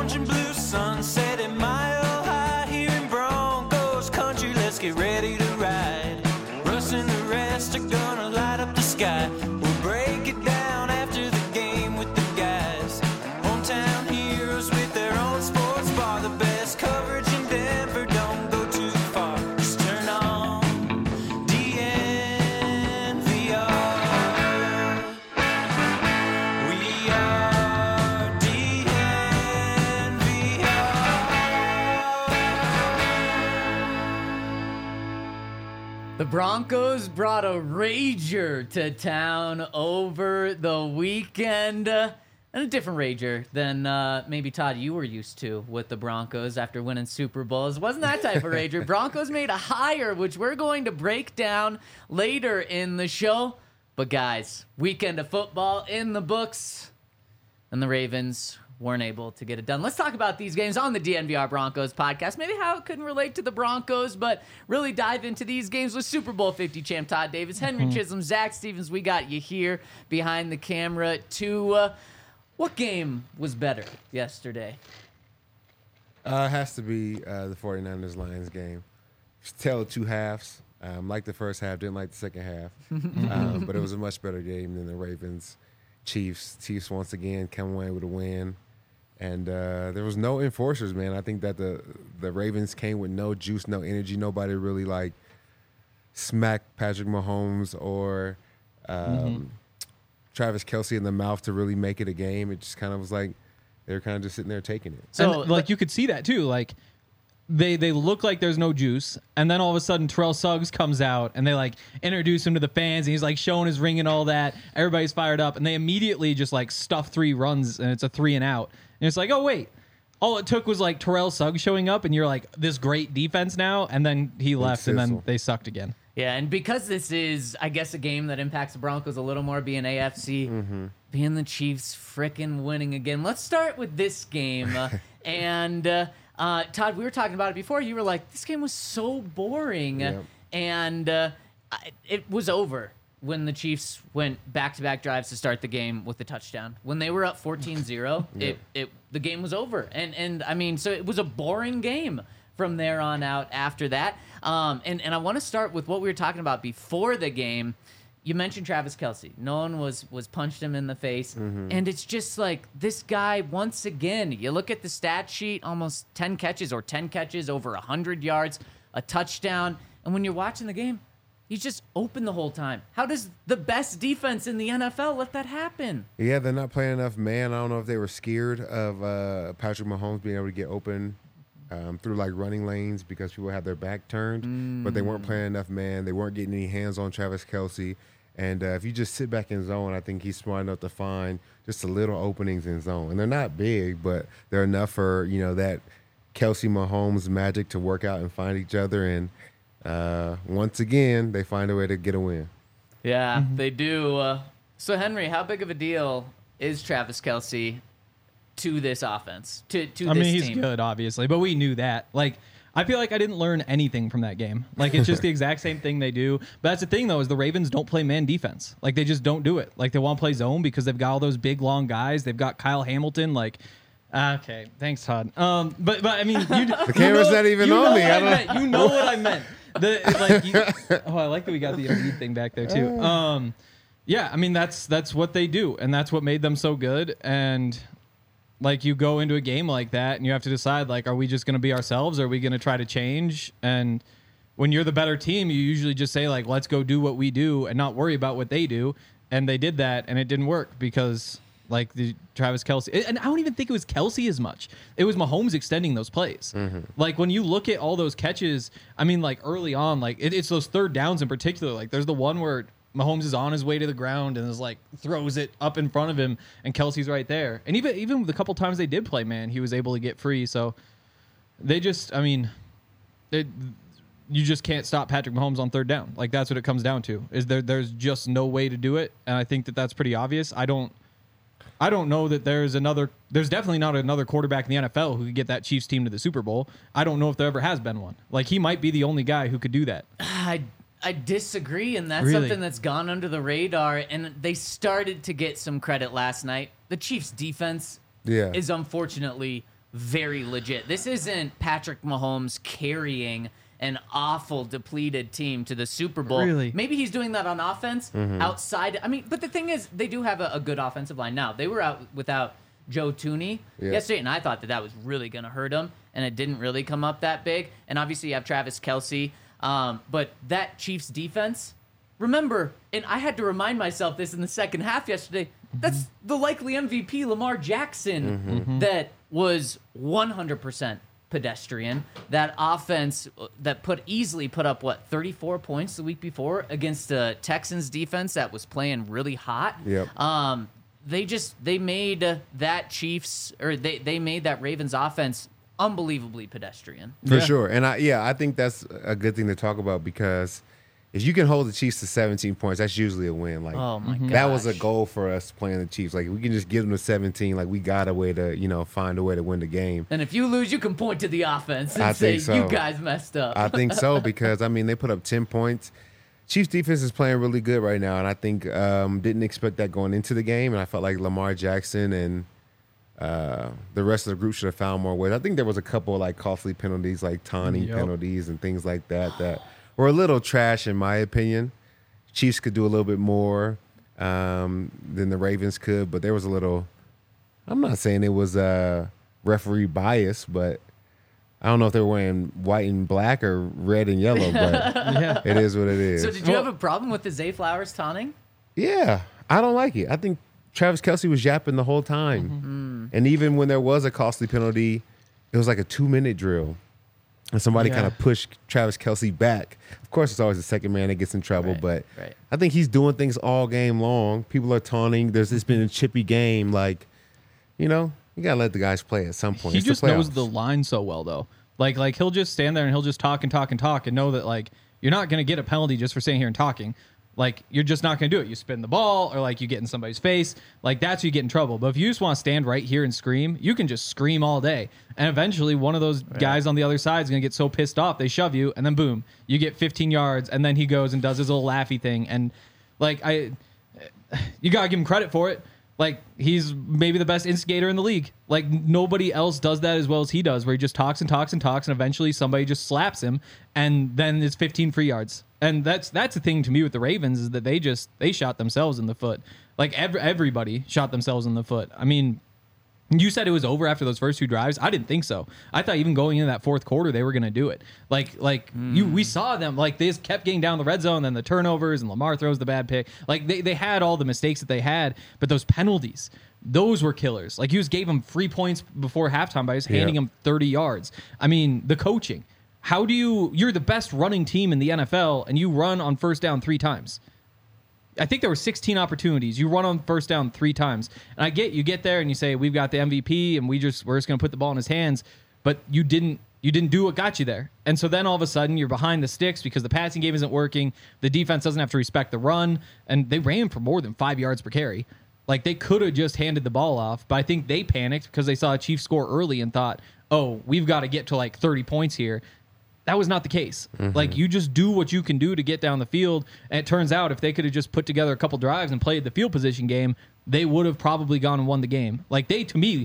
orange and blue sunset at Mile High here in Broncos country. Let's get ready to ride. Russ and the rest are gonna light up the sky. We'll break it down after the game with the guys. Hometown heroes with their own sports bar. The best coverage in Denver, don't go too far. Just turn on DNVR. We are DNVR. The Broncos brought a rager to town over the weekend. And a different rager than maybe, Todd, you were used to with the Broncos after winning Super Bowls. It wasn't that type of rager. Broncos made a hire, which we're going to break down later in the show. But, guys, weekend of football in the books, and the Ravens weren't able to get it done. Let's talk about these games on the DNVR Broncos podcast. Maybe how it couldn't relate to the Broncos, but really dive into these games with Super Bowl 50 champ Todd Davis, Henry Chisholm, Zach Stevens. We got you here behind the camera to... what game was better yesterday? It has to be the 49ers-Lions game. It's a tale of two halves. Liked the first half, didn't like the second half. But it was a much better game than the Ravens-Chiefs. Chiefs, once again, come away with a win. And there was no enforcers, man. I think that the Ravens came with no juice, no energy. Nobody really, smacked Patrick Mahomes or Travis Kelce in the mouth to really make it a game. It just kind of was like they were kind of just sitting there taking it. So, you could see that, too. They look like there's no juice, and then all of a sudden Terrell Suggs comes out, and they, introduce him to the fans, and he's, showing his ring and all that. Everybody's fired up, and they immediately just, stuff 3 runs, and it's a 3 and out. And it's like, oh, wait. All it took was, Terrell Suggs showing up, and you're like, this great defense now, and then he left, and then they sucked again. Yeah, and because this is, I guess, a game that impacts the Broncos a little more, being AFC, being the Chiefs frickin' winning again. Let's start with this game. And, Todd, we were talking about it before. You were like, this game was so boring. Yep. And it was over when the Chiefs went back-to-back drives to start the game with the touchdown. When they were up 14-0, the game was over. And I mean, so it was a boring game from there on out after that. And I want to start with what we were talking about before the game. You mentioned Travis Kelce. No one was punched him in the face. And it's just like this guy, once again, you look at the stat sheet, almost 10 catches or 10 catches over 100 yards, a touchdown. And when you're watching the game, he's just open the whole time. How does the best defense in the NFL let that happen? Yeah, they're not playing enough man. I don't know if they were scared of Patrick Mahomes being able to get open through running lanes because people had their back turned, but they weren't playing enough man. They weren't getting any hands on Travis Kelce. And if you just sit back in zone, I think he's smart enough to find just a little openings in zone. And they're not big, but they're enough for, that Kelce Mahomes magic to work out and find each other. And once again, they find a way to get a win. Yeah, they do. So, Henry, how big of a deal is Travis Kelce to this offense, to this team? He's good, obviously, but we knew that. I feel like I didn't learn anything from that game. It's just the exact same thing they do. But that's the thing, though, is the Ravens don't play man defense. They just don't do it. They want to play zone because they've got all those big, long guys. They've got Kyle Hamilton. Okay, thanks, Todd. But I mean, the camera's not even on me. You know what I meant. I like that we got the elite thing back there too. Yeah, I mean that's what they do, and that's what made them so good. And you go into a game like that, and you have to decide are we just going to be ourselves, or are we going to try to change? And when you're the better team, you usually just say let's go do what we do and not worry about what they do. And they did that, and it didn't work because the Travis Kelce, and I don't even think it was Kelce as much. It was Mahomes extending those plays. When you look at all those catches, I mean, early on, it's those third downs in particular. There's the one where Mahomes is on his way to the ground and is throws it up in front of him, and Kelce's right there. And even the couple times they did play man, he was able to get free. So they just, you just can't stop Patrick Mahomes on third down. That's what it comes down to. Is there's just no way to do it, and I think that's pretty obvious. I don't know that there's definitely not another quarterback in the NFL who could get that Chiefs team to the Super Bowl. I don't know if there ever has been one. He might be the only guy who could do that. I disagree, and that's something that's gone under the radar, and they started to get some credit last night. The Chiefs' defense is unfortunately very legit. This isn't Patrick Mahomes carrying an awful depleted team to the Super Bowl. Really? Maybe he's doing that on offense outside. I mean, but the thing is, they do have a good offensive line now. They were out without Joe Thuney yesterday, and I thought that was really going to hurt him, and it didn't really come up that big. And obviously, you have Travis Kelce, but that Chiefs defense, remember, and I had to remind myself this in the second half yesterday, that's the likely MVP, Lamar Jackson, that was 100% pedestrian. That offense that easily put up 34 points the week before against the Texans defense that was playing really hot. Yep. They made that Chiefs, or they made that Ravens offense unbelievably pedestrian. For sure. And I think that's a good thing to talk about, because if you can hold the Chiefs to 17 points, that's usually a win. Like, Oh my god, that was a goal for us playing the Chiefs. Like, we can just give them to 17. Like, we got a way to, find a way to win the game. And if you lose, you can point to the offense and I say, think so. you guys messed up. I think so, because, I mean, they put up 10 points. Chiefs defense is playing really good right now, and I think didn't expect that going into the game, and I felt like Lamar Jackson and the rest of the group should have found more ways. I think there was a couple of, like, costly penalties, like taunting penalties and things like that were a little trash in my opinion. Chiefs could do a little bit more than the Ravens could, but there was a little, I'm not saying it was referee bias, but I don't know if they were wearing white and black or red and yellow, but it is what it is. So did you have a problem with the Zay Flowers taunting? Yeah, I don't like it. I think Travis Kelce was yapping the whole time. And even when there was a costly penalty, it was like a 2-minute drill. And somebody kind of pushed Travis Kelce back. Of course, it's always the second man that gets in trouble, but I think he's doing things all game long. People are taunting. It's been a chippy game. Like, you got to let the guys play at some point. He It's just the knows playoffs. the line so well, though. Like he'll just stand there and he'll just talk and talk and talk and know that, like, you're not going to get a penalty just for standing here and talking. Like, you're just not going to do it. You spin the ball, or like you get in somebody's face. Like, that's where you get in trouble. But if you just want to stand right here and scream, you can just scream all day. And eventually one of those guys on the other side is going to get so pissed off, they shove you, and then boom, you get 15 yards, and then he goes and does his little laughy thing. And, like, you got to give him credit for it. Like, he's maybe the best instigator in the league. Like, nobody else does that as well as he does, where he just talks and talks and talks, and eventually somebody just slaps him, and then it's 15 free yards. And that's the thing to me with the Ravens, is that they shot themselves in the foot. Like, everybody shot themselves in the foot. I mean, you said it was over after those first two drives. I didn't think so. I thought even going into that fourth quarter, they were going to do it. We saw them. Like, they just kept getting down the red zone, then the turnovers, and Lamar throws the bad pick. Like, they had all the mistakes that they had, but those penalties, those were killers. Like, you just gave them 3 points before halftime by just handing them 30 yards. I mean, the coaching. How do you're the best running team in the NFL, and you run on first down 3 times. I think there were 16 opportunities. You run on first down 3 times. And I get, you get there and you say, we've got the MVP and we're just going to put the ball in his hands, but you didn't do what got you there. And so then all of a sudden you're behind the sticks because the passing game isn't working. The defense doesn't have to respect the run, and they ran for more than 5 yards per carry. Like, they could have just handed the ball off, but I think they panicked because they saw a Chiefs score early and thought, oh, we've got to get to like 30 points here. That was not the case. Like, you just do what you can do to get down the field. And it turns out if they could have just put together a couple drives and played the field position game, they would have probably gone and won the game. Like, to me,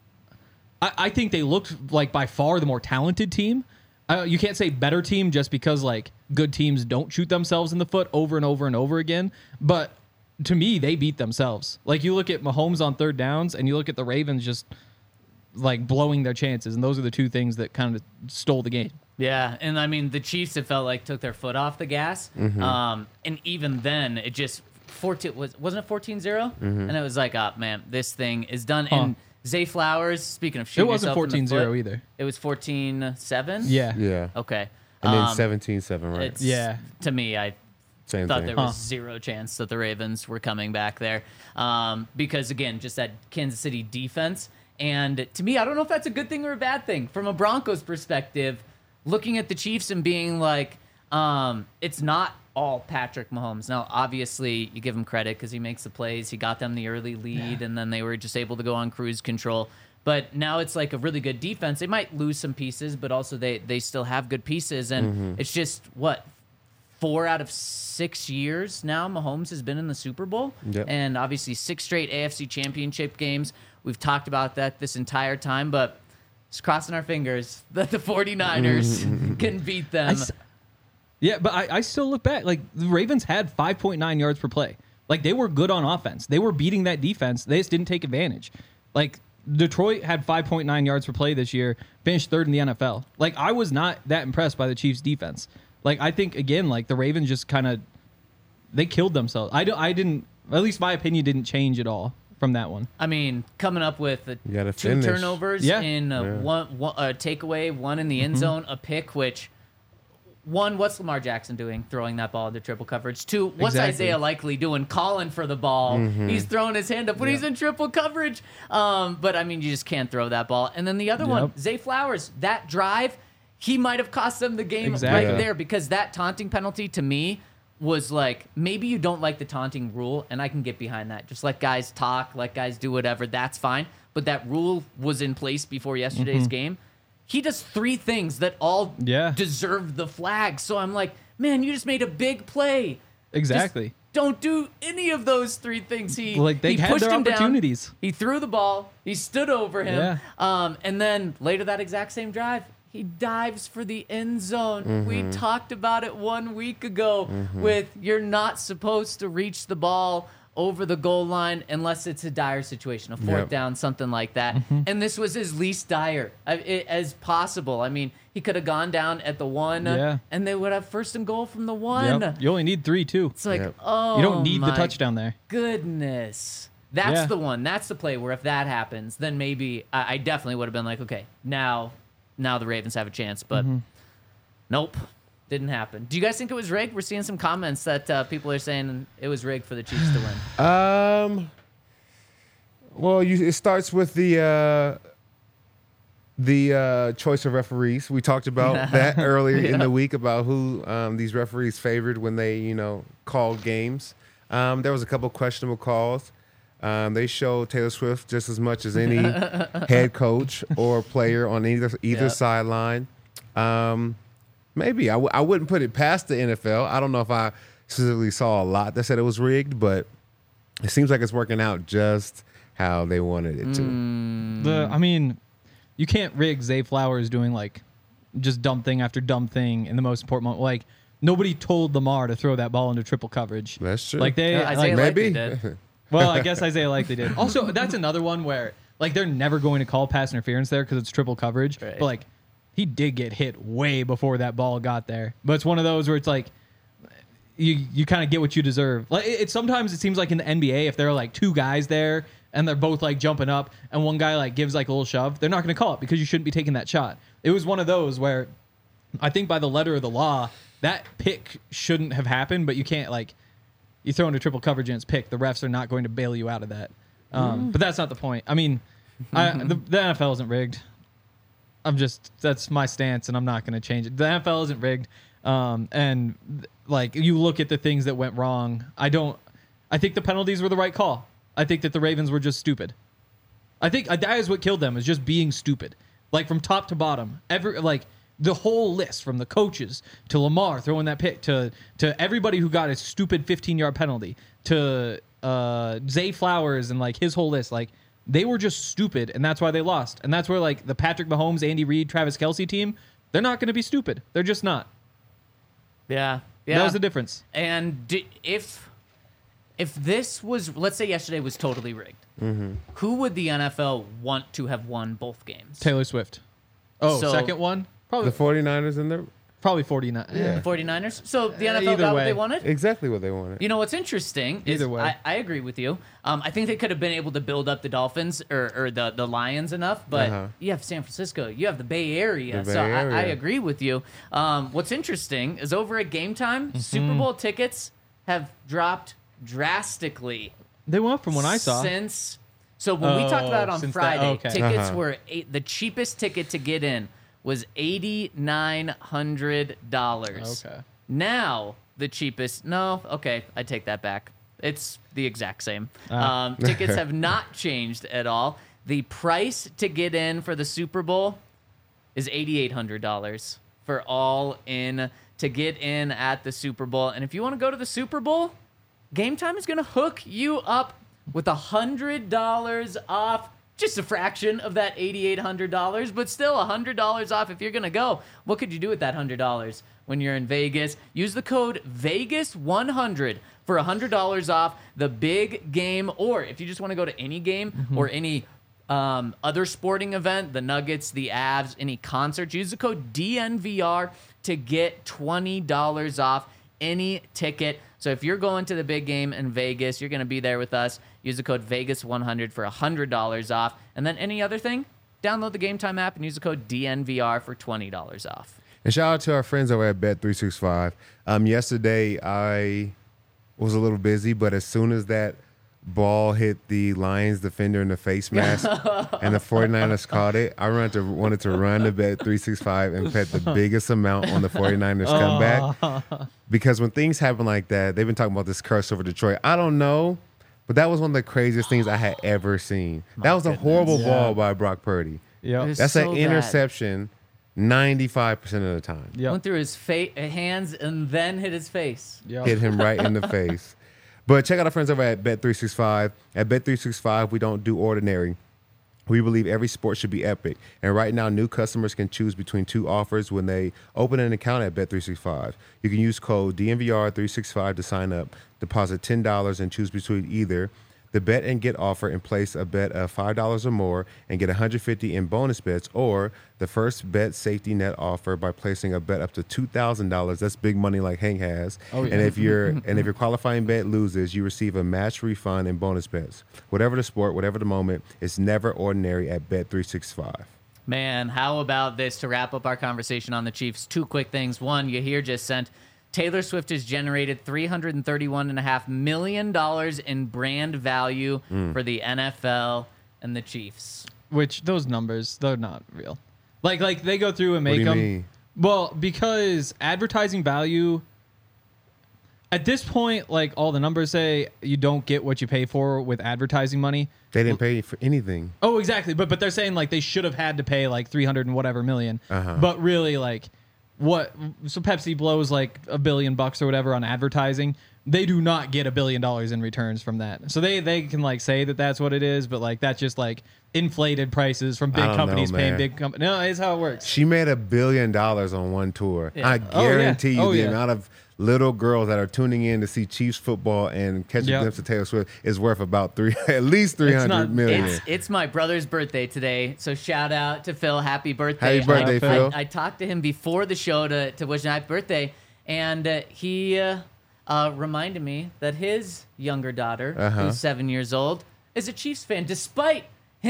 I think they looked like by far the more talented team. You can't say better team just because, like, good teams don't shoot themselves in the foot over and over and over again. But to me, they beat themselves. Like, you look at Mahomes on third downs and you look at the Ravens just, like, blowing their chances. And those are the two things that kind of stole the game. Yeah, and I mean, the Chiefs, it felt like, took their foot off the gas. And even then, it just, wasn't it 14-0? And it was like, oh, man, this thing is done. And Zay Flowers, speaking of shooting it wasn't yourself in the 14-0 foot, either. It was 14-7? Yeah. Okay. And then 17-7, right? It's, to me, I Same thought thing. there was zero chance that the Ravens were coming back there. Because, again, just that Kansas City defense. And to me, I don't know if that's a good thing or a bad thing. From a Broncos perspective, looking at the Chiefs and being like, it's not all Patrick Mahomes. Now, obviously, you give him credit because he makes the plays. He got them the early lead, and then they were just able to go on cruise control. But now it's like a really good defense. They might lose some pieces, but also they still have good pieces. And it's just, 4 out of 6 years now Mahomes has been in the Super Bowl. Yep. And obviously 6 straight AFC championship games. We've talked about that this entire time, but Just crossing our fingers that the 49ers can beat them. Yeah, but I still look back. Like, the Ravens had 5.9 yards per play. Like, they were good on offense. They were beating that defense. They just didn't take advantage. Like, Detroit had 5.9 yards per play this year, finished third in the NFL. Like, I was not that impressed by the Chiefs' defense. Like, I think, again, like, the Ravens just kind of, they killed themselves. I didn't, at least my opinion didn't change at all from that one. I mean, coming up with gotta 2 finish. turnovers Yeah. in one takeaway, 1 in the end zone, a pick, which... 1, what's Lamar Jackson doing throwing that ball into triple coverage? 2, what's Exactly. Isaiah Likely doing calling for the ball? He's throwing his hand up when he's in triple coverage. But, I mean, you just can't throw that ball. And then the other one, Zay Flowers, that drive, he might have cost them the game Exactly. right there because that taunting penalty to me was like, maybe you don't like the taunting rule, and I can get behind that. Just let guys talk, let guys do whatever, that's fine. But that rule was in place before yesterday's game. He does 3 things that all deserve the flag. So I'm like, man, you just made a big play. Exactly. Just don't do any of those 3 things. He They had pushed their him down. opportunities. He threw the ball. He stood over him. Yeah. And then later that exact same drive, he dives for the end zone. We talked about it 1 week ago with you're not supposed to reach the ball over the goal line unless it's a dire situation, a 4th down, something like that. And this was as least dire as possible. I mean, he could have gone down at the 1, and they would have 1st and goal from the 1. Yep. You only need 3, too. It's like, oh, You don't need the my touchdown there. goodness. That's the one. That's the play where if that happens, then maybe I definitely would have been like, okay, now the Ravens have a chance. But nope. Didn't happen. Do you guys think it was rigged? We're seeing some comments that people are saying it was rigged for the Chiefs to win. Well, it starts with the choice of referees. We talked about that earlier in the week about who these referees favored when they, called games. There was a couple questionable calls. They showed Taylor Swift just as much as any head coach or player on either sideline. Maybe. I wouldn't put it past the NFL. I don't know if I specifically saw a lot that said it was rigged, but it seems like it's working out just how they wanted it to. I mean, you can't rig Zay Flowers doing, like, just dumb thing after dumb thing in the most important moment. Like, nobody told Lamar to throw that ball into triple coverage. That's true. Like, Isaiah Likely did. Well, I guess Isaiah Likely did. Also, that's another one where, like, they're never going to call pass interference there because it's triple coverage. Right. But, like, he did get hit way before that ball got there. But it's one of those where it's like, you kind of get what you deserve. Like, sometimes it seems like in the NBA, if there are, like, 2 guys there and they're both, like, jumping up and one guy, like, gives, like, a little shove, they're not going to call it because you shouldn't be taking that shot. It was one of those where I think by the letter of the law, that pick shouldn't have happened, but you can't, like, you throw into triple coverage and it's picked. The refs are not going to bail you out of that. But that's not the point. I mean, the NFL isn't rigged. That's my stance, and I'm not going to change it. The NFL isn't rigged. And, like, you look at the things that went wrong. I think the penalties were the right call. I think that the Ravens were just stupid. I think that is what killed them, is just being stupid. Like, from top to bottom. The whole list, from the coaches to Lamar throwing that pick to everybody who got a stupid 15-yard penalty to Zay Flowers and, like, his whole list. Like, they were just stupid, and that's why they lost. And that's where, like, the Patrick Mahomes, Andy Reid, Travis Kelce team, they're not going to be stupid. They're just not. Yeah. That was the difference. And if this was, let's say yesterday was totally rigged, who would the NFL want to have won both games? Taylor Swift. Oh, So- second one? Probably The 49ers in there? probably 49. Yeah. The 49ers? So the NFL either got what way. they wanted? Exactly what they wanted. You know what's interesting is Either way. I agree with you. I think they could have been able to build up the Dolphins or the Lions enough, but you have San Francisco, you have the Bay Area, The so Bay I Area. agree with you. What's interesting is over at Game Time, Super Bowl tickets have dropped drastically They went up from when I saw. since. So when we talked about it on since that- Friday, okay. tickets were the cheapest ticket to get in was $8,900. Okay. Now the cheapest. No, okay, I take that back. It's the exact same. Tickets have not changed at all. The price to get in for the Super Bowl is $8,800 for all in to get in at the Super Bowl. And if you want to go to the Super Bowl, Game Time is going to hook you up with $100 off just a fraction of that $8,800, but still $100 off if you're going to go. What could you do with that $100 when you're in Vegas? Use the code VEGAS100 for $100 off the big game, or if you just want to go to any game or any other sporting event, the Nuggets, the Avs, any concerts, use the code DNVR to get $20 off any ticket. So if you're going to the big game in Vegas, you're going to be there with us. Use the code VEGAS100 for $100 off. And then any other thing, download the Game Time app and use the code DNVR for $20 off. And shout out to our friends over at Bet365. Yesterday, I was a little busy, but as soon as that ball hit the Lions defender in the face mask and the 49ers caught it, I wanted to run to Bet365 and bet the biggest amount on the 49ers comeback. Because when things happen like that, they've been talking about this curse over Detroit. I don't know, but that was one of the craziest things I had ever seen. That was a horrible ball by Brock Purdy. Yep. That's so an bad. interception 95% of the time. Yep. Went through his hands and then hit his face. Yep. Hit him right in the face. But check out our friends over at Bet365. At Bet365, we don't do ordinary. We believe every sport should be epic. And right now, new customers can choose between two offers when they open an account at Bet365. You can use code DNVR365 to sign up, deposit $10, and choose between either the bet and get offer and place a bet of $5 or more and get $150 in bonus bets, or the first bet safety net offer by placing a bet up to $2,000. That's big money like Hank has. Oh, yeah. And if your qualifying bet loses, you receive a match refund and bonus bets. Whatever the sport, whatever the moment, it's never ordinary at Bet365. Man, how about this to wrap up our conversation on the Chiefs? Two quick things. One, Yahir just sent, Taylor Swift has generated $331.5 million in brand value for the NFL and the Chiefs. Which those numbers, they're not real. Like they go through and What make do you them. mean? Well, because advertising value at this point, like all the numbers say, you don't get what you pay for with advertising money. They didn't pay for anything. Oh, exactly. But they're saying like they should have had to pay like 300 and whatever million. But really, like what? So Pepsi blows like $1 billion or whatever on advertising. They do not get $1 billion in returns from that. So they can like say that that's what it is, but like that's just like inflated prices from big I don't companies know, paying man. big companies. No, it's how it works. She made $1 billion on one tour. Yeah. I guarantee you Oh, the yeah. amount of little girls that are tuning in to see Chiefs football and catch a Yep. glimpse of Taylor Swift is worth about at least 300 not- million. It's my brother's birthday today, so shout out to Phil. Happy birthday. Happy birthday, Phil. I talked to him before the show to wish him happy birthday, and he reminded me that his younger daughter, who's 7 years old, is a Chiefs fan, despite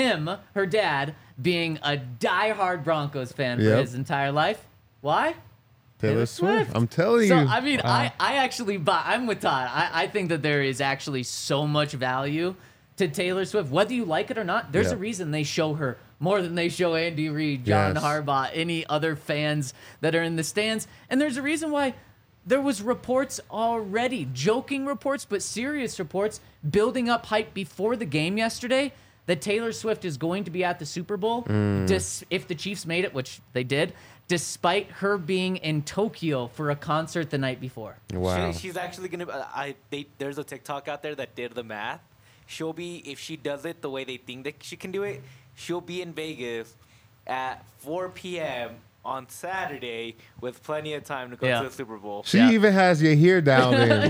her dad, being a diehard Broncos fan for Yep. his entire life. Why? Taylor Swift. I'm telling So, you. I mean, I actually buy. I'm with Todd. I think that there is actually so much value to Taylor Swift, whether you like it or not. There's Yeah. a reason they show her more than they show Andy Reid, John Yes. Harbaugh, any other fans that are in the stands. And there's a reason why there was reports already, joking reports, but serious reports, building up hype before the game yesterday that Taylor Swift is going to be at the Super Bowl if the Chiefs made it, which they did, despite her being in Tokyo for a concert the night before. Wow. She's actually gonna. There's a TikTok out there that did the math. She'll be, if she does it the way they think that she can do it, she'll be in Vegas at 4 p.m. on Saturday with plenty of time to go Yeah. to the Super Bowl. She Yeah. even has your hair down there.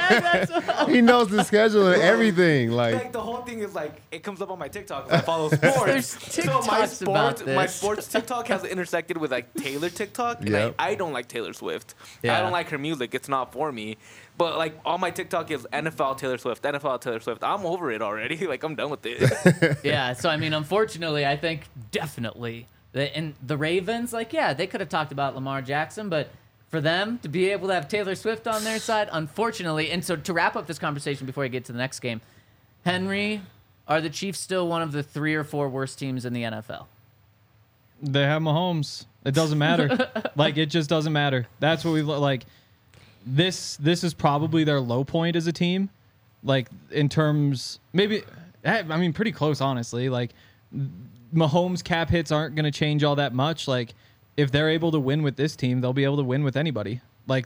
Like, he knows the schedule and everything. Like Like, the whole thing is like it comes up on my TikTok. If I follow sports. There's So TikToks about my this. sports TikTok has intersected with like Taylor TikTok, and Yep. I don't like Taylor Swift. Yeah. I don't like her music. It's not for me. But like all my TikTok is NFL Taylor Swift, NFL Taylor Swift. I'm over it already. Like I'm done with it. Yeah, so I mean, unfortunately, I think definitely, and the Ravens, like, yeah, they could have talked about Lamar Jackson, but for them to be able to have Taylor Swift on their side, unfortunately, and so to wrap up this conversation before I get to the next game, Henry, are the Chiefs still one of the 3 or 4 worst teams in the NFL? They have Mahomes. It doesn't matter. Like it just doesn't matter. That's what we like. This is probably their low point as a team. Like in terms, maybe I mean pretty close honestly. Like Mahomes cap hits aren't going to change all that much. Like if they're able to win with this team, they'll be able to win with anybody. Like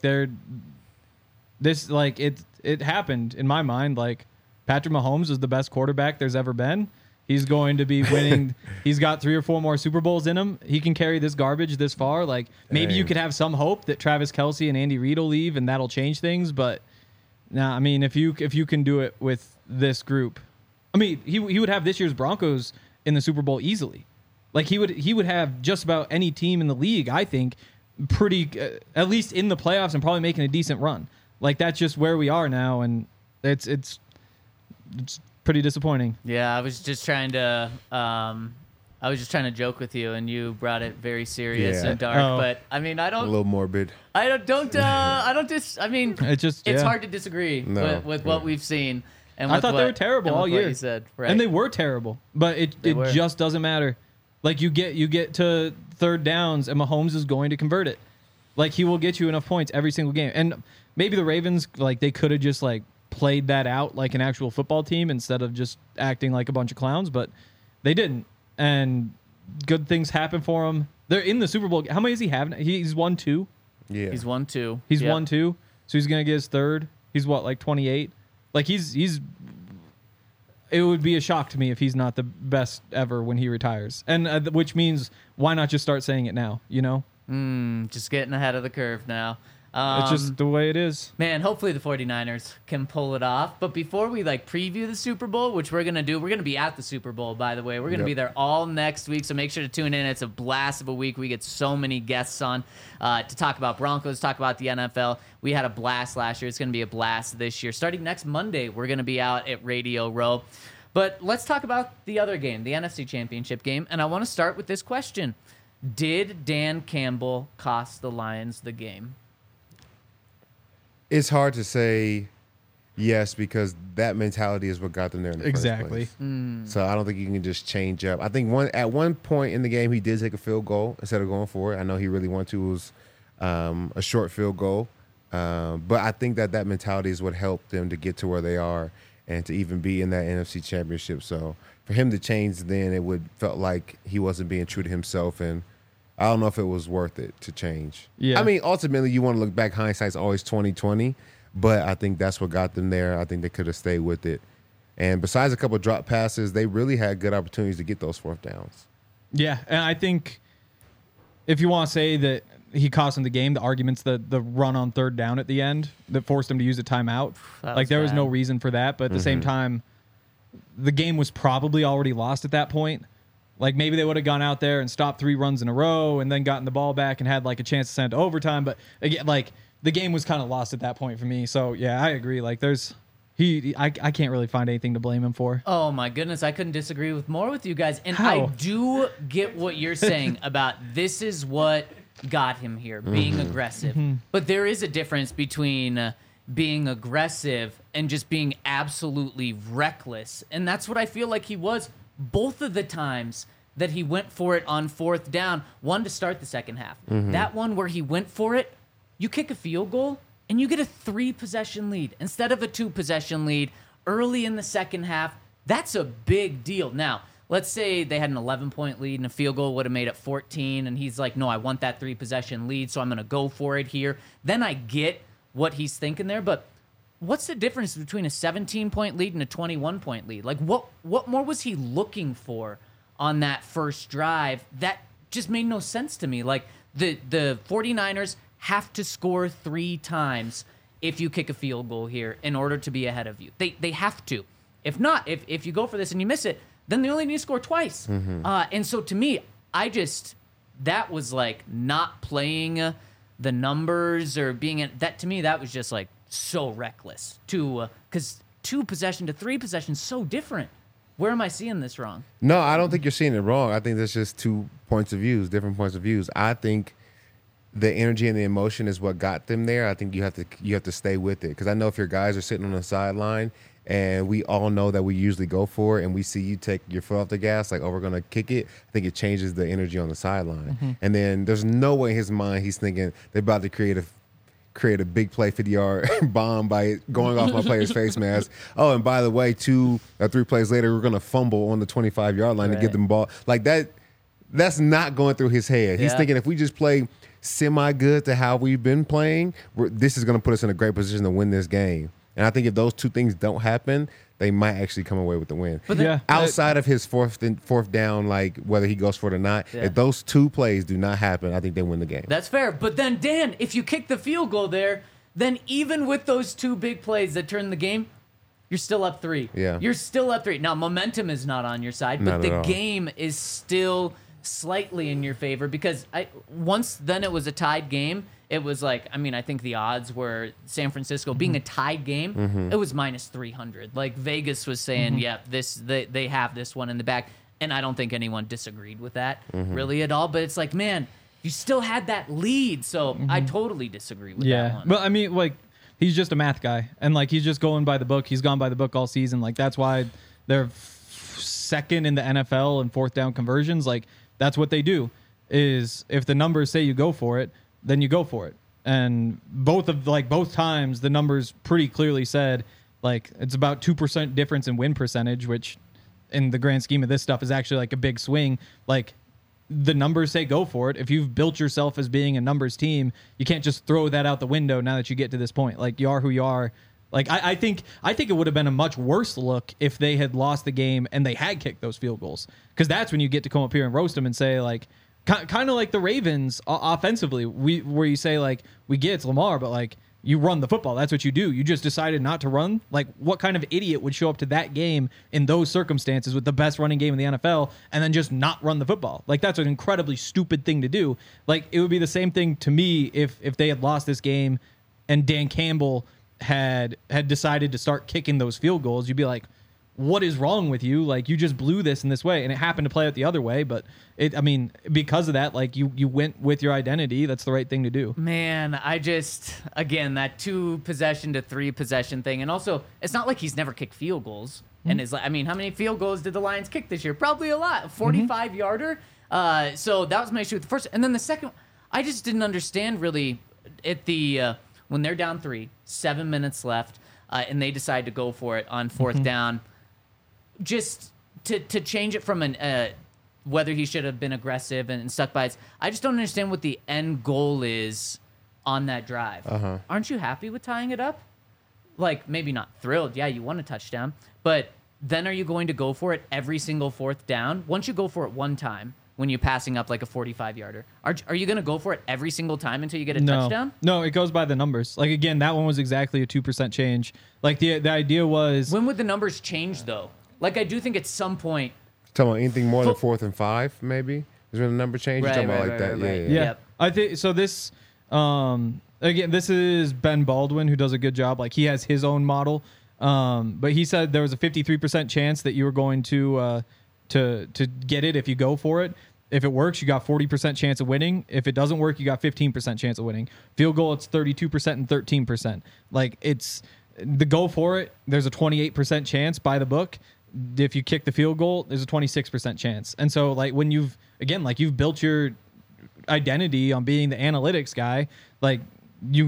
it happened in my mind. Like Patrick Mahomes is the best quarterback there's ever been. He's going to be winning. He's got 3 or 4 more Super Bowls in him. He can carry this garbage this far. Like, maybe you could have some hope that Travis Kelce and Andy Reid will leave and that'll change things. But nah, I mean, if you can do it with this group, I mean, he would have this year's Broncos in the Super Bowl easily. Like, he would have just about any team in the league, I think, pretty at least in the playoffs and probably making a decent run. Like, that's just where we are now, and it's pretty disappointing. Yeah, I was just trying to joke with you, and you brought it very serious Yeah. and dark. Oh. But I mean, I A don't. little morbid. I mean, it's Yeah. hard to disagree No, with yeah. what we've seen. And I with thought they what- were terrible and with all what year. you said, right? And they were terrible, but it were. just doesn't matter. Like, you get to third downs, and Mahomes is going to convert it. Like, he will get you enough points every single game. And maybe the Ravens, like, they could have just like played that out like an actual football team instead of just acting like a bunch of clowns, but they didn't. And good things happen for them. They're in the Super Bowl. How many does he have? He's won 2. Yeah. He's 1-2. He's Yep. 1-2. So he's gonna get his 3rd. He's what, like 28? Like, he's. It would be a shock to me if he's not the best ever when he retires, and which means why not just start saying it now? You know, Just getting ahead of the curve now. it's just the way it is. Man, hopefully the 49ers can pull it off. But before we like preview the Super Bowl, which we're going to do, we're going to be at the Super Bowl, by the way. We're going to Yep. be there all next week. So make sure to tune in. It's a blast of a week. We get so many guests on to talk about Broncos, talk about the NFL. We had a blast last year. It's going to be a blast this year. Starting next Monday, we're going to be out at Radio Row. But let's talk about the other game, the NFC Championship game. And I want to start with this question. Did Dan Campbell cost the Lions the game? It's hard to say yes because that mentality is what got them there in the Exactly. first place. So I don't think you can just change up. I think at one point in the game he did take a field goal instead of going for it. I know he really wanted to. It was a short field goal. But I think that mentality is what helped them to get to where they are and to even be in that NFC Championship. So for him to change then, it would felt like he wasn't being true to himself, and I don't know if it was worth it to change. Yeah. I mean, ultimately, you want to look back. Hindsight's always 20/20, but I think that's what got them there. I think they could have stayed with it. And besides a couple of drop passes, they really had good opportunities to get those 4th downs. Yeah, and I think if you want to say that he cost him the game, the argument's the run on 3rd down at the end that forced him to use a timeout. That Like, was there was no bad. reason for that, but at the same time, the game was probably already lost at that point. Like, maybe they would have gone out there and stopped 3 runs in a row and then gotten the ball back and had like a chance to send it to overtime. But again, like, the game was kind of lost at that point for me. So yeah, I agree. Like, I can't really find anything to blame him for. Oh my goodness, I couldn't disagree with more with you guys. And How? I do get what you're saying about this is what got him here, being aggressive. But there is a difference between being aggressive and just being absolutely reckless. And that's what I feel like he was both of the times that he went for it on 4th down. One to start the second half. That one where he went for it, you kick a field goal and you get a 3-possession lead instead of a 2-possession lead early in the second half. That's a big deal. Now, let's say they had an 11-point lead and a field goal would have made it 14, and he's like, no, I want that 3-possession lead, so I'm going to go for it here. Then I get what he's thinking there, but what's the difference between a 17-point lead and a 21-point lead? Like, what more was he looking for on that first drive? That just made no sense to me. Like, the 49ers have to score 3 times if you kick a field goal here in order to be ahead of you. They have to. If not, if you go for this and you miss it, then they only need to score twice. And so to me, that was like not playing the numbers or being that to me, that was just like so reckless because 2 possession to 3 possession, so different. Where am I seeing this wrong? No, I don't think you're seeing it wrong. I think that's just 2 points of views, different points of views. I think the energy and the emotion is what got them there. I think you have to stay with it, because I know if your guys are sitting on the sideline and we all know that we usually go for it and we see you take your foot off the gas, like, oh, we're going to kick it, I think it changes the energy on the sideline. And then there's no way in his mind he's thinking they're about to create a big play 50-yard bomb by going off my player's face mask. Oh, and by the way, 2 or 3 plays later, we're going to fumble on the 25-yard line to get them ball. Like that. That's not going through his head. He's Yeah. thinking if we just play semi-good to how we've been playing, this is going to put us in a great position to win this game. And I think if those 2 things don't happen, they might actually come away with the win. But Yeah. Outside of his fourth down, like whether he goes for it or not, Yeah. if those two plays do not happen, I think they win the game. That's fair. But then, Dan, if you kick the field goal there, then even with those two big plays that turn the game, you're still up 3. Yeah. You're still up 3. Now, momentum is not on your side, but Not at the all. game is still slightly in your favor because once then it was a tied game. It was like, I mean, I think the odds were San Francisco being a tied game. It was minus 300. Like Vegas was saying, yeah, they have this one in the back. And I don't think anyone disagreed with that really at all. But it's like, man, you still had that lead. So I totally disagree with that Yeah, one. but I mean, like, he's just a math guy, and like he's just going by the book. He's gone by the book all season. Like that's why they're second in the NFL in fourth down conversions. Like that's what they do. Is if the numbers say you go for it, then you go for it. And both times the numbers pretty clearly said like it's about 2% difference in win percentage, which in the grand scheme of this stuff is actually like a big swing. Like the numbers say go for it. If you've built yourself as being a numbers team, you can't just throw that out the window now that you get to this point. Like you are who you are. Like I think it would have been a much worse look if they had lost the game and they had kicked those field goals, because that's when you get to come up here and roast them and say like kind of like the Ravens offensively, where you say like we get it's Lamar, but like you run the football. That's what you do. You just decided not to run. Like, what kind of idiot would show up to that game in those circumstances with the best running game in the NFL and then just not run the football? Like, that's an incredibly stupid thing to do. Like, it would be the same thing to me if they had lost this game and Dan Campbell had decided to start kicking those field goals. You'd be like, what is wrong with you? Like, you just blew this in this way, and it happened to play out the other way. But because of that, like you went with your identity. That's the right thing to do. Man, again, that 2 possession to 3 possession thing. And also, it's not like he's never kicked field goals. And it's like, I mean, how many field goals did the Lions kick this year? Probably a lot. 45-yarder. So that was my issue with the first. And then the second, I just didn't understand really when they're down 3, 7 minutes left, and they decide to go for it on 4th down. Just to change it from whether he should have been aggressive and stuck by it. I just don't understand what the end goal is on that drive. Aren't you happy with tying it up? Like, maybe not thrilled. Yeah, you want a touchdown. But then are you going to go for it every single 4th down? Once you go for it one time, when you're passing up like a 45-yarder, are you going to go for it every single time until you get a touchdown? No, it goes by the numbers. Like, again, that one was exactly a 2% change. Like, the idea was... When would the numbers change, though? Like, I do think at some point... Talking about anything more than 4th and 5, maybe? Is when the number change? You're talking about like that? right. Yeah. Yeah. Yep. I think so. This again, this is Ben Baldwin, who does a good job. Like, he has his own model, but he said there was a 53% chance that you were going to get it if you go for it. If it works, you got 40% chance of winning. If it doesn't work, you got 15% chance of winning. Field goal, it's 32% and 13%. Like, it's the go for it. There's a 28% chance by the book. If you kick the field goal, there's a 26% chance. And so, like, when you've built your identity on being the analytics guy, like, you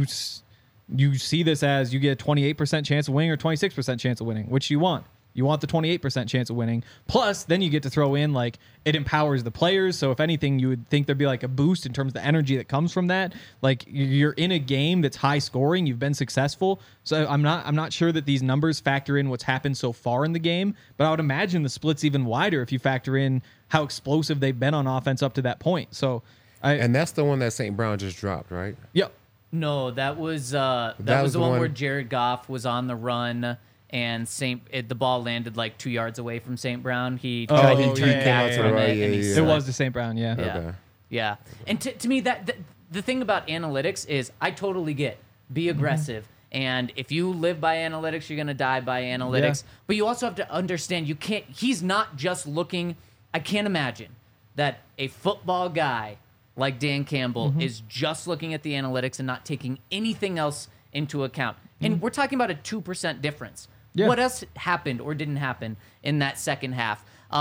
see this as you get a 28% chance of winning or 26% chance of winning. Which you want? You want the 28% chance of winning. Plus, then you get to throw in, like, it empowers the players. So if anything, you would think there'd be like a boost in terms of the energy that comes from that. Like, you're in a game that's high scoring. You've been successful. So I'm not sure that these numbers factor in what's happened so far in the game. But I would imagine the split's even wider if you factor in how explosive they've been on offense up to that point. So, And that's the one that St. Brown just dropped, right? Yep. No, that was the one where Jared Goff was on the run. And the ball landed like 2 yards away from St. Brown. He tried to turn back from it, and he It slipped. was the St. Brown, yeah. Yeah. Okay. Yeah. And to me, that the thing about analytics is I totally get be aggressive. And if you live by analytics, you're going to die by analytics. Yeah. But you also have to understand he's not just looking. I can't imagine that a football guy like Dan Campbell is just looking at the analytics and not taking anything else into account. And we're talking about a 2% difference. Yeah. What else happened or didn't happen in that second half?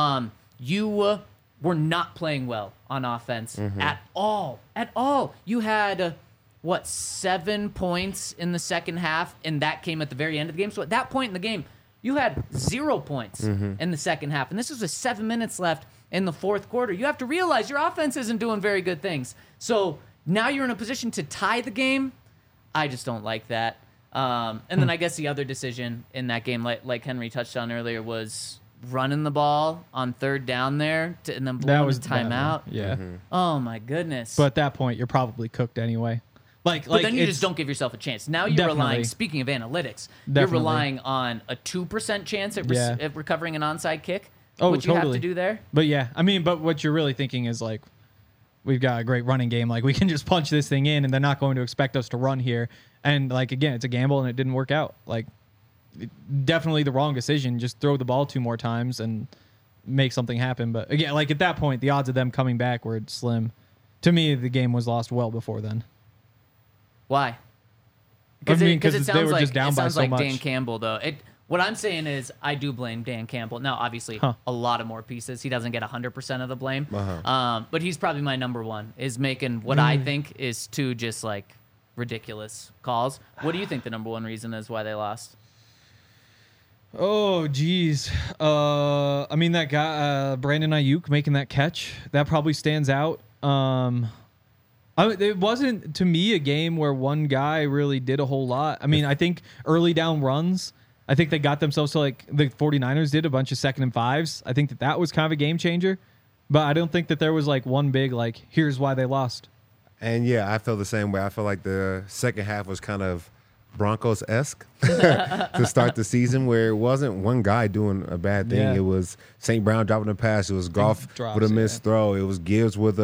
You were not playing well on offense at all. At all. You had, 7 points in the second half, and that came at the very end of the game. So at that point in the game, you had 0 points in the second half. And this was with 7 minutes left in the fourth quarter. You have to realize your offense isn't doing very good things. So now you're in a position to tie the game. I just don't like that. And then I guess the other decision in that game, like Henry touched on earlier, was running the ball on third down there and then blowing the timeout. Yeah. Oh my goodness. But at that point, you're probably cooked anyway. But then you just don't give yourself a chance. Now you're relying, speaking of analytics, you're relying on a 2% chance at recovering an onside kick. Oh, what you have to do there. But yeah, I mean, but what you're really thinking is like, we've got a great running game. Like, we can just punch this thing in and they're not going to expect us to run here. And like, again, it's a gamble and it didn't work out. Like, definitely the wrong decision. Just throw the ball 2 more times and make something happen. But again, like at that point, the odds of them coming back were slim. To me, the game was lost well before then. Why? Because it they were just down by so much. Dan Campbell, though. What I'm saying is I do blame Dan Campbell. Now, obviously, a lot of more pieces. He doesn't get 100% of the blame. But he's probably my number one, is making what I think is 2 just like ridiculous calls. What do you think the number one reason is why they lost? Oh, geez. I mean, that guy, Brandon Ayuk making that catch, that probably stands out. It wasn't, to me, a game where one guy really did a whole lot. I mean, I think early down runs, I think they got themselves to, like, the 49ers did a bunch of 2nd and 5s. I think that was kind of a game changer. But I don't think that there was, like, one big, like, here's why they lost. And, yeah, I feel the same way. I feel like the second half was kind of Broncos-esque to start the season, where it wasn't one guy doing a bad thing. It was St. Brown dropping a pass. It was Goff with a missed throw. It was Gibbs with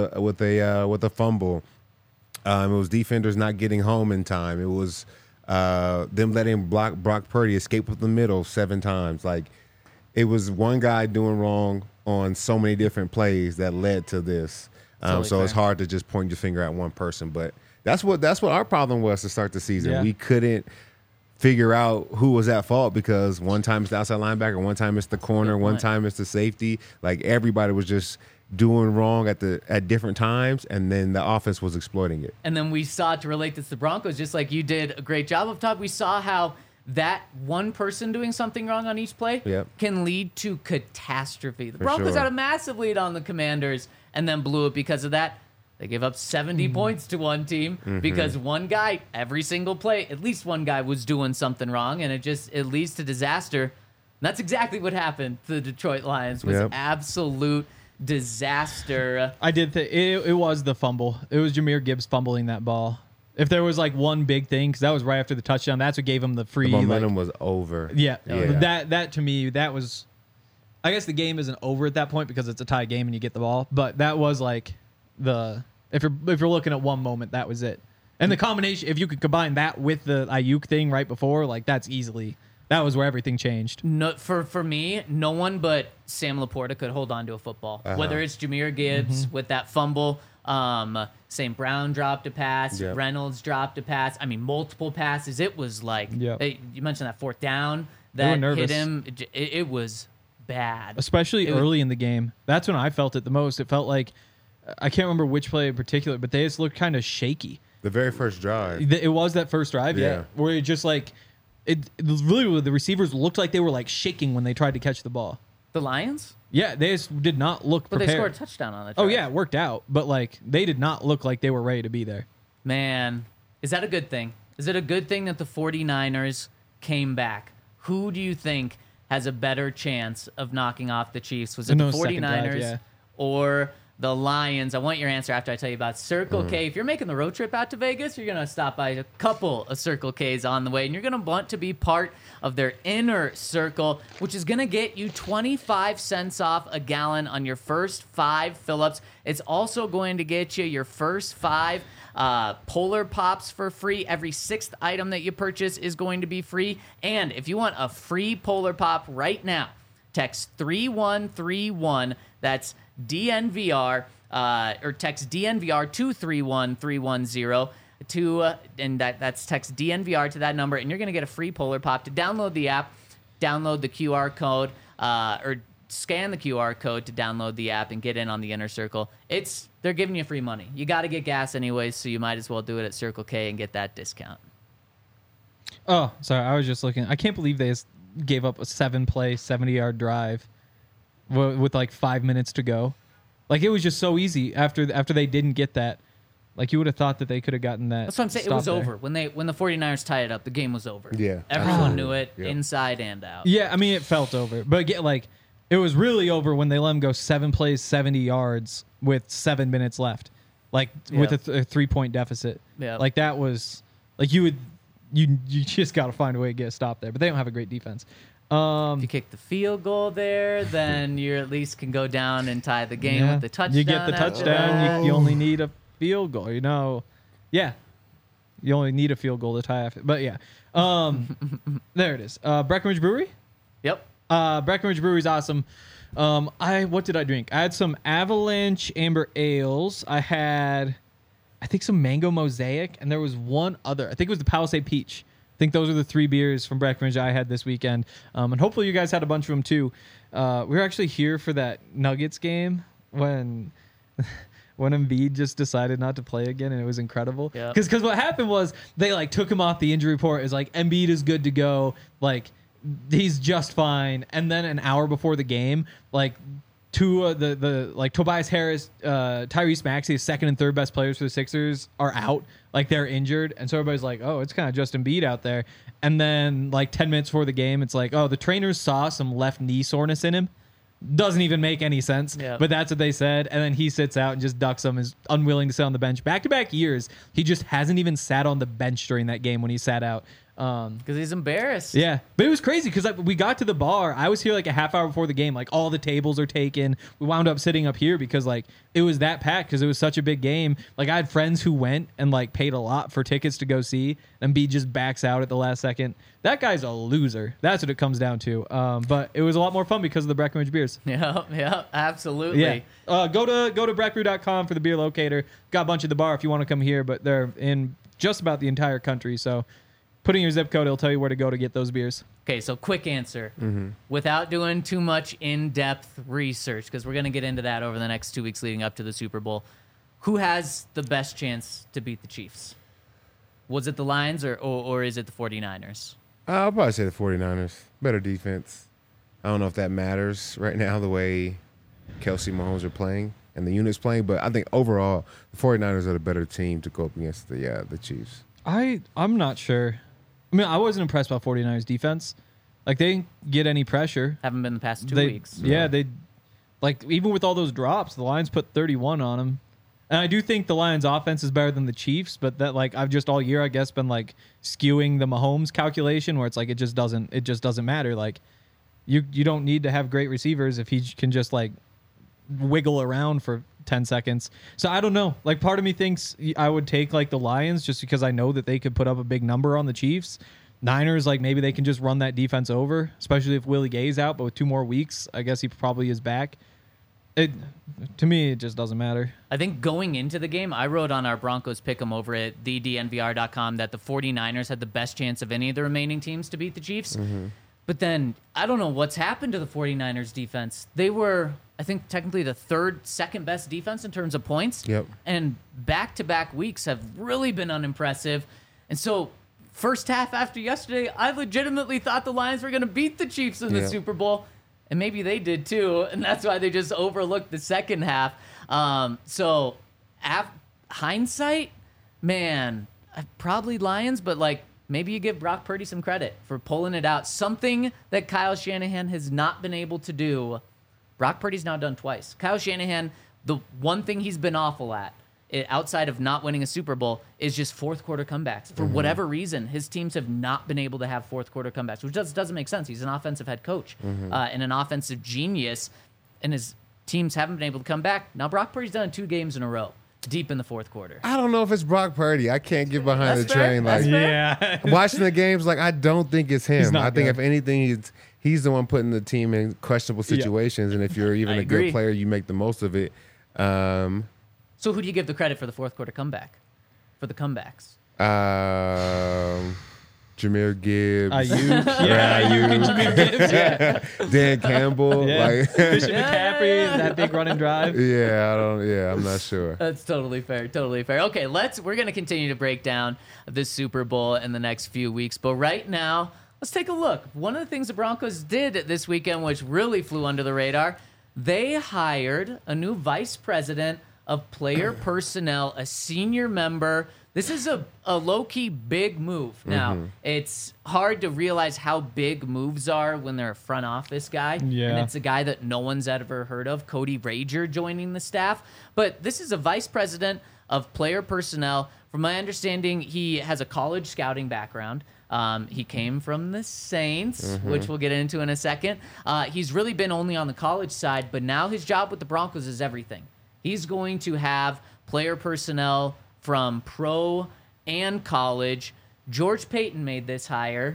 a fumble. It was defenders not getting home in time. It was them letting Brock Purdy escape with the middle 7 times. Like, it was one guy doing wrong on so many different plays that led to this. So it's hard to just point your finger at one person. But that's what our problem was to start the season. Yeah. We couldn't figure out who was at fault, because one time it's the outside linebacker, one time it's the corner, one time it's the safety. Like, everybody was just doing wrong at different times, and then the offense was exploiting it. And then we saw, to relate this to the Broncos, just like you did a great job up top, we saw how that one person doing something wrong on each play can lead to catastrophe. The Broncos had a massive lead on the Commanders and then blew it because of that. They gave up 70 points to one team because one guy, every single play, at least one guy was doing something wrong, and it leads to disaster. And that's exactly what happened to the Detroit Lions. Was absolute disaster. I did think it was the fumble. It was Jahmyr Gibbs fumbling that ball. If there was like one big thing, because that was right after the touchdown, that's what gave him the free. The momentum was over. Yeah. That to me, that was. I guess the game isn't over at that point because it's a tie game and you get the ball. But that was like if you're looking at one moment, that was it. And the combination, if you could combine that with the Ayuk thing right before, like that was where everything changed. No, for me, no one but Sam Laporta could hold on to a football. Whether it's Jahmyr Gibbs with that fumble, St. Brown dropped a pass, Reynolds dropped a pass. I mean, multiple passes. It was like, you mentioned that 4th down that hit him. It was bad. Especially early in the game. That's when I felt it the most. It felt like, I can't remember which play in particular, but they just looked kind of shaky. The very first drive. It was that first drive, where it just like, it really, the receivers looked like they were like shaking when they tried to catch the ball. The Lions? Yeah, they just did not look prepared. But they scored a touchdown on it. Oh, yeah, it worked out. But, like, they did not look like they were ready to be there. Man, is that a good thing? Is it a good thing that the 49ers came back? Who do you think has a better chance of knocking off the Chiefs? Was it the 49ers or the Lions? I want your answer after I tell you about Circle K. If you're making the road trip out to Vegas, you're going to stop by a couple of Circle Ks on the way, and you're going to want to be part of their inner circle, which is going to get you 25 cents off a gallon on your first 5 fill-ups. It's also going to get you your first 5 Polar Pops for free. Every 6th item that you purchase is going to be free. And if you want a free Polar Pop right now, text 3131. That's DNVR, or text DNVR to 31310 and that's text DNVR to that number, and you're going to get a free Polar Pop. To download the app, download the QR code, or scan the QR code to download the app and get in on the inner circle. They're giving you free money. You got to get gas anyways, so you might as well do it at Circle K and get that discount. Oh, sorry, I was just looking. I can't believe they gave up a 7-play, 70-yard drive with like 5 minutes to go. Like, it was just so easy after they didn't get that. Like you would have thought that they could have gotten that. That's what I'm saying. It stop was there. over when the 49ers tied it up. The game was over. Yeah, Everyone absolutely. knew it, Yeah. inside and out. Yeah, I mean, it felt over. But like, it was really over when they let him go 7 plays, 70 yards with 7 minutes left. Like, with a 3-point deficit. Yeah. Like, that was, like, you just got to find a way to get a stop there. But they don't have a great defense. If you kick the field goal there, then you at least can go down and tie the game with the touchdown. You get the after touchdown. that. You only need a field goal, Yeah. You only need a field goal to tie after. But, yeah. There it is. Breckenridge Brewery? Yep. Breckenridge Brewery's awesome. What did I drink? I had some Avalanche Amber Ales. I had, I think, some Mango Mosaic, and there was one other. I think it was the Palisade Peach. I think those are the 3 beers from Breckenridge I had this weekend. And hopefully you guys had a bunch of them too. We were actually here for that Nuggets game when Embiid just decided not to play again, and it was incredible. Yeah. Because what happened was they like took him off the injury report. It's like Embiid is good to go. Like, he's just fine. And then an hour before the game, like Tobias Harris, Tyrese Maxey, second and third best players for the Sixers, are out. Like, they're injured. And so everybody's like, oh, it's kind of just Embiid out there. And then like 10 minutes before the game, it's like, oh, the trainers saw some left knee soreness in him. Doesn't even make any sense. Yeah. But that's what they said. And then he sits out and just ducks them, is unwilling to sit on the bench. Back-to-back years, he just hasn't even sat on the bench during that game when he sat out. Because he's embarrassed. Yeah, but it was crazy because we got to the bar. I was here like a half hour before the game. Like, all the tables are taken. We wound up sitting up here because like it was that packed because it was such a big game. Like, I had friends who went and like paid a lot for tickets to go see, and B just backs out at the last second. That guy's a loser. That's what it comes down to. But it was a lot more fun because of the Breckenridge beers. Yeah, absolutely. Yeah. Go to breckbrew.com for the beer locator. Got a bunch at the bar if you want to come here, but they're in just about the entire country. So put in your zip code, it'll tell you where to go to get those beers. Okay, so quick answer. Without doing too much in-depth research, because we're going to get into that over the next 2 weeks leading up to the Super Bowl. Who has the best chance to beat the Chiefs? Was it the Lions or is it the 49ers? I'll probably say the 49ers. Better defense. I don't know if that matters right now, the way Kelsey Mahomes are playing and the unit's playing, but I think overall the 49ers are the better team to go up against the Chiefs. I'm not sure. I mean, I wasn't impressed by 49ers defense. Like, they didn't get any pressure. Haven't been the past 2 They- weeks. Yeah, they, like, even with all those drops, the Lions put 31 on them. And I do think the Lions offense is better than the Chiefs, but that, like, I've just all year, I guess, been like skewing the Mahomes calculation where it's like it just doesn't matter. Like, you don't need to have great receivers if he can just like wiggle around for 10 seconds. So I don't know. Like, part of me thinks I would take like the Lions just because I know that they could put up a big number on the Chiefs. Niners, like, maybe they can just run that defense over, especially if Willie Gay's out, but with 2 more weeks, I guess he probably is back. To me, it just doesn't matter. I think going into the game, I wrote on our Broncos pick'em over at thednvr.com that the 49ers had the best chance of any of the remaining teams to beat the Chiefs. But then I don't know what's happened to the 49ers defense. They were, I think, technically the second best defense in terms of points. Yep. And back-to-back weeks have really been unimpressive. And so first half after yesterday, I legitimately thought the Lions were going to beat the Chiefs in the Yeah. Super Bowl. And maybe they did too, and that's why they just overlooked the second half. So, hindsight, man, probably Lions, but like maybe you give Brock Purdy some credit for pulling it out. Something that Kyle Shanahan has not been able to do. Brock Purdy's now done twice. Kyle Shanahan, the one thing he's been awful at, outside of not winning a Super Bowl, is just fourth quarter comebacks. For whatever reason, his teams have not been able to have fourth quarter comebacks, which doesn't make sense. He's an offensive head coach and an offensive genius, and his teams haven't been able to come back. Now, Brock Purdy's done it 2 games in a row, deep in the fourth quarter. I don't know if it's Brock Purdy. I can't get behind That's the fair. train. That's Like, fair. Yeah. watching the games, like, I don't think it's him. not I think good. if anything, he's the one putting the team in questionable situations, and if you're even I a agree. good player, you make the most of it. So who do you give the credit for the fourth quarter comeback? For the comebacks? Jameer Gibbs, Ayuk. Yeah, Ayuk and Jameer Gibbs. Yeah. Dan Campbell. Yeah. Like, Christian McCaffrey, that big running drive. I'm not sure. That's totally fair. Totally fair. Okay, we're going to continue to break down this Super Bowl in the next few weeks. But right now, let's take a look. One of the things the Broncos did this weekend, which really flew under the radar, they hired a new vice president of player personnel, a senior member. This is a low-key big move. Now, it's hard to realize how big moves are when they're a front office guy. Yeah. And it's a guy that no one's ever heard of, Cody Rager, joining the staff. But this is a vice president of player personnel. From my understanding, he has a college scouting background. He came from the Saints, which we'll get into in a second. He's really been only on the college side, but now his job with the Broncos is everything. He's going to have player personnel from pro and college. George Paton made this hire.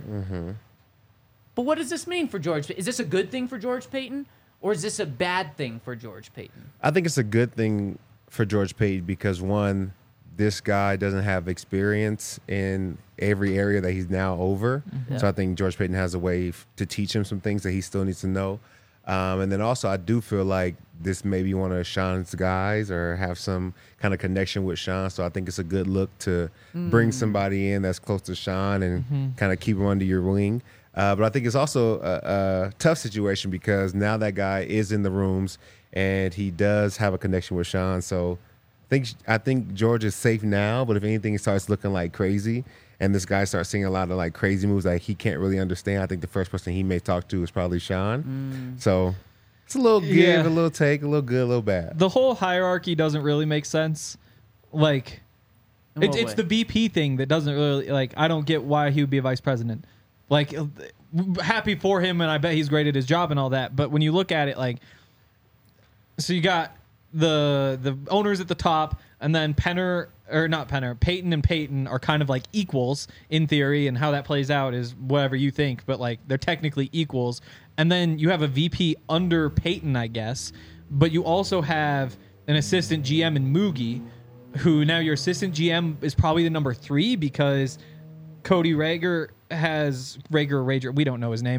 But what does this mean for George? Is this a good thing for George Paton, or is this a bad thing for George Paton? I think it's a good thing for George Paton because, one, this guy doesn't have experience in every area that he's now over. So I think George Paton has a way to teach him some things that he still needs to know. And then also, I do feel like this may be one of Sean's guys or have some kind of connection with Sean. So I think it's a good look to bring somebody in that's close to Sean and kind of keep him under your wing. But I think it's also a tough situation because now that guy is in the rooms and he does have a connection with Sean. So I think George is safe now, but if anything starts looking like crazy and this guy starts seeing a lot of like crazy moves that he can't really understand, I think the first person he may talk to is probably Sean. So it's a little give, a little take, a little good, a little bad. The whole hierarchy doesn't really make sense. Like, it's the BP thing that doesn't really, like, I don't get why he would be a vice president. Like, happy for him, and I bet he's great at his job and all that. But when you look at it, like, so you got the owners at the top, and then Paton and Paton are kind of like equals in theory, and how that plays out is whatever you think, but like they're technically equals. And then you have a VP under Paton, I guess, but you also have an assistant GM in Moogie, who now your assistant GM is probably the number 3 because Cody Rager we don't know his name,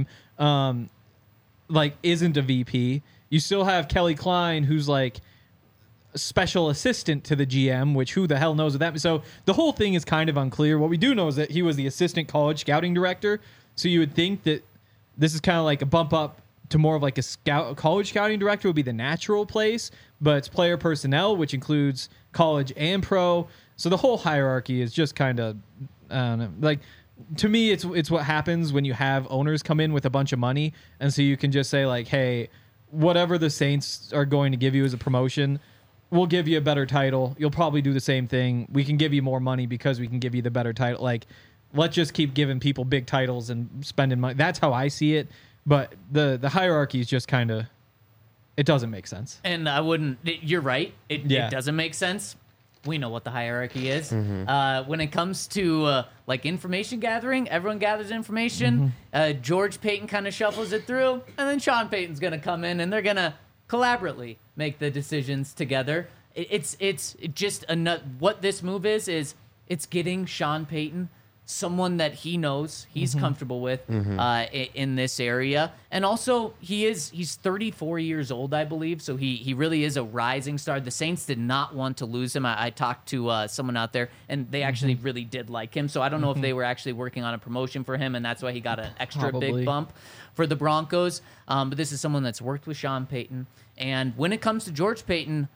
like isn't a VP. You still have Kelly Klein, who's like special assistant to the GM, which who the hell knows what that. So the whole thing is kind of unclear. What we do know is that he was the assistant college scouting director. So you would think that this is kind of like a bump up to more of like a college scouting director would be the natural place, but it's player personnel, which includes college and pro. So the whole hierarchy is just kind of, I don't know, like, to me, it's what happens when you have owners come in with a bunch of money, and so you can just say like, hey, whatever the Saints are going to give you as a promotion, we'll give you a better title. You'll probably do the same thing. We can give you more money because we can give you the better title. Like, let's just keep giving people big titles and spending money. That's how I see it. But the hierarchy is just kind of, it doesn't make sense. And you're right. It doesn't make sense. We know what the hierarchy is. When it comes to like information gathering, everyone gathers information. George Paton kind of shuffles it through, and then Sean Payton's going to come in, and they're going to collaboratively make the decisions together. It's just what this move is it's getting Sean Payton someone that he knows, he's comfortable with in this area. And also, he's 34 years old, I believe, so he really is a rising star. The Saints did not want to lose him. I talked to someone out there, and they actually really did like him, so I don't know if they were actually working on a promotion for him, and that's why he got an extra big bump for the Broncos. But this is someone that's worked with Sean Payton. And when it comes to George Paton,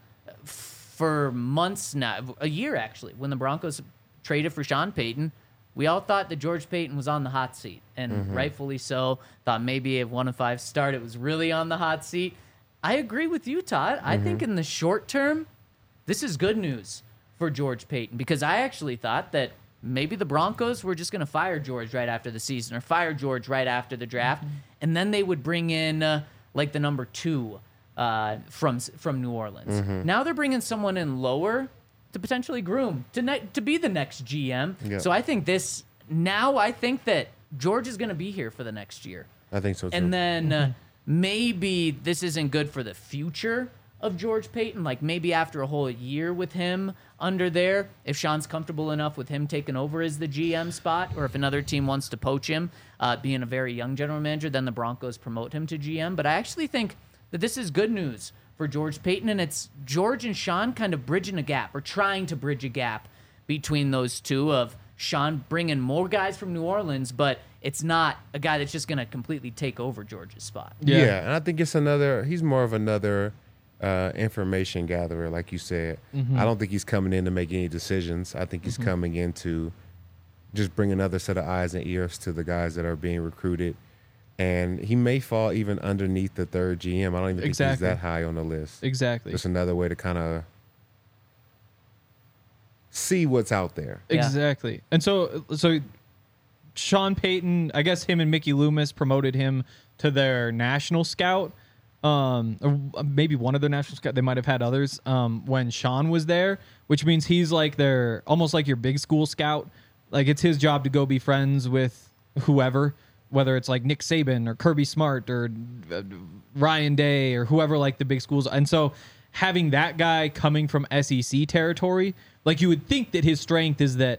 for months now, a year actually, when the Broncos traded for Sean Payton, we all thought that George Paton was on the hot seat, and rightfully so. Thought maybe a 1-5 start, it was really on the hot seat. I agree with you, Todd. I think in the short term, this is good news for George Paton, because I actually thought that maybe the Broncos were just going to fire George right after the season or fire George right after the draft, and then they would bring in like the number 2 from New Orleans. Now they're bringing someone in lower to potentially groom to be the next GM. Yeah. So I think that George is going to be here for the next year. I think so too. And then maybe this isn't good for the future of George Paton. Like maybe after a whole year with him under there, if Sean's comfortable enough with him taking over as the GM spot, or if another team wants to poach him, being a very young general manager, then the Broncos promote him to GM. But I actually think that this is good news for George Paton, and it's George and Sean kind of bridging a gap, or trying to bridge a gap between those two, of Sean bringing more guys from New Orleans, but it's not a guy that's just going to completely take over George's spot. Yeah, and I think he's more of another information gatherer, like you said. I don't think he's coming in to make any decisions. I think he's coming in to just bring another set of eyes and ears to the guys that are being recruited. And he may fall even underneath the third GM. I don't even think he's that high on the list. Exactly. Just another way to kind of see what's out there. Yeah. Exactly. And so Sean Payton, I guess him and Mickey Loomis promoted him to their national scout. Or maybe one of their national scout. They might have had others when Sean was there, which means he's like their almost like your big school scout. Like it's his job to go be friends with whoever, whether it's like Nick Saban or Kirby Smart or Ryan Day or whoever, like the big schools. And so having that guy coming from SEC territory, like you would think that his strength is that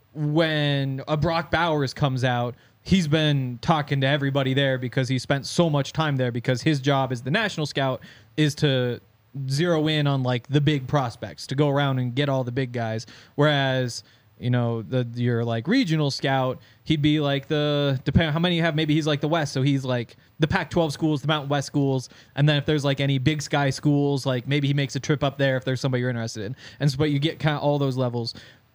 when a Brock Bowers comes out, he's been talking to everybody there because he spent so much time there, because his job as the national scout is to zero in on like the big prospects, to go around and get all the big guys. Whereas, you know, your like regional scout, he'd be like depending on how many you have, maybe he's like the West. So he's like the Pac-12 schools, the Mountain West schools. And then if there's like any Big Sky schools, like maybe he makes a trip up there if there's somebody you're interested in. And so, but you get kind of all those levels.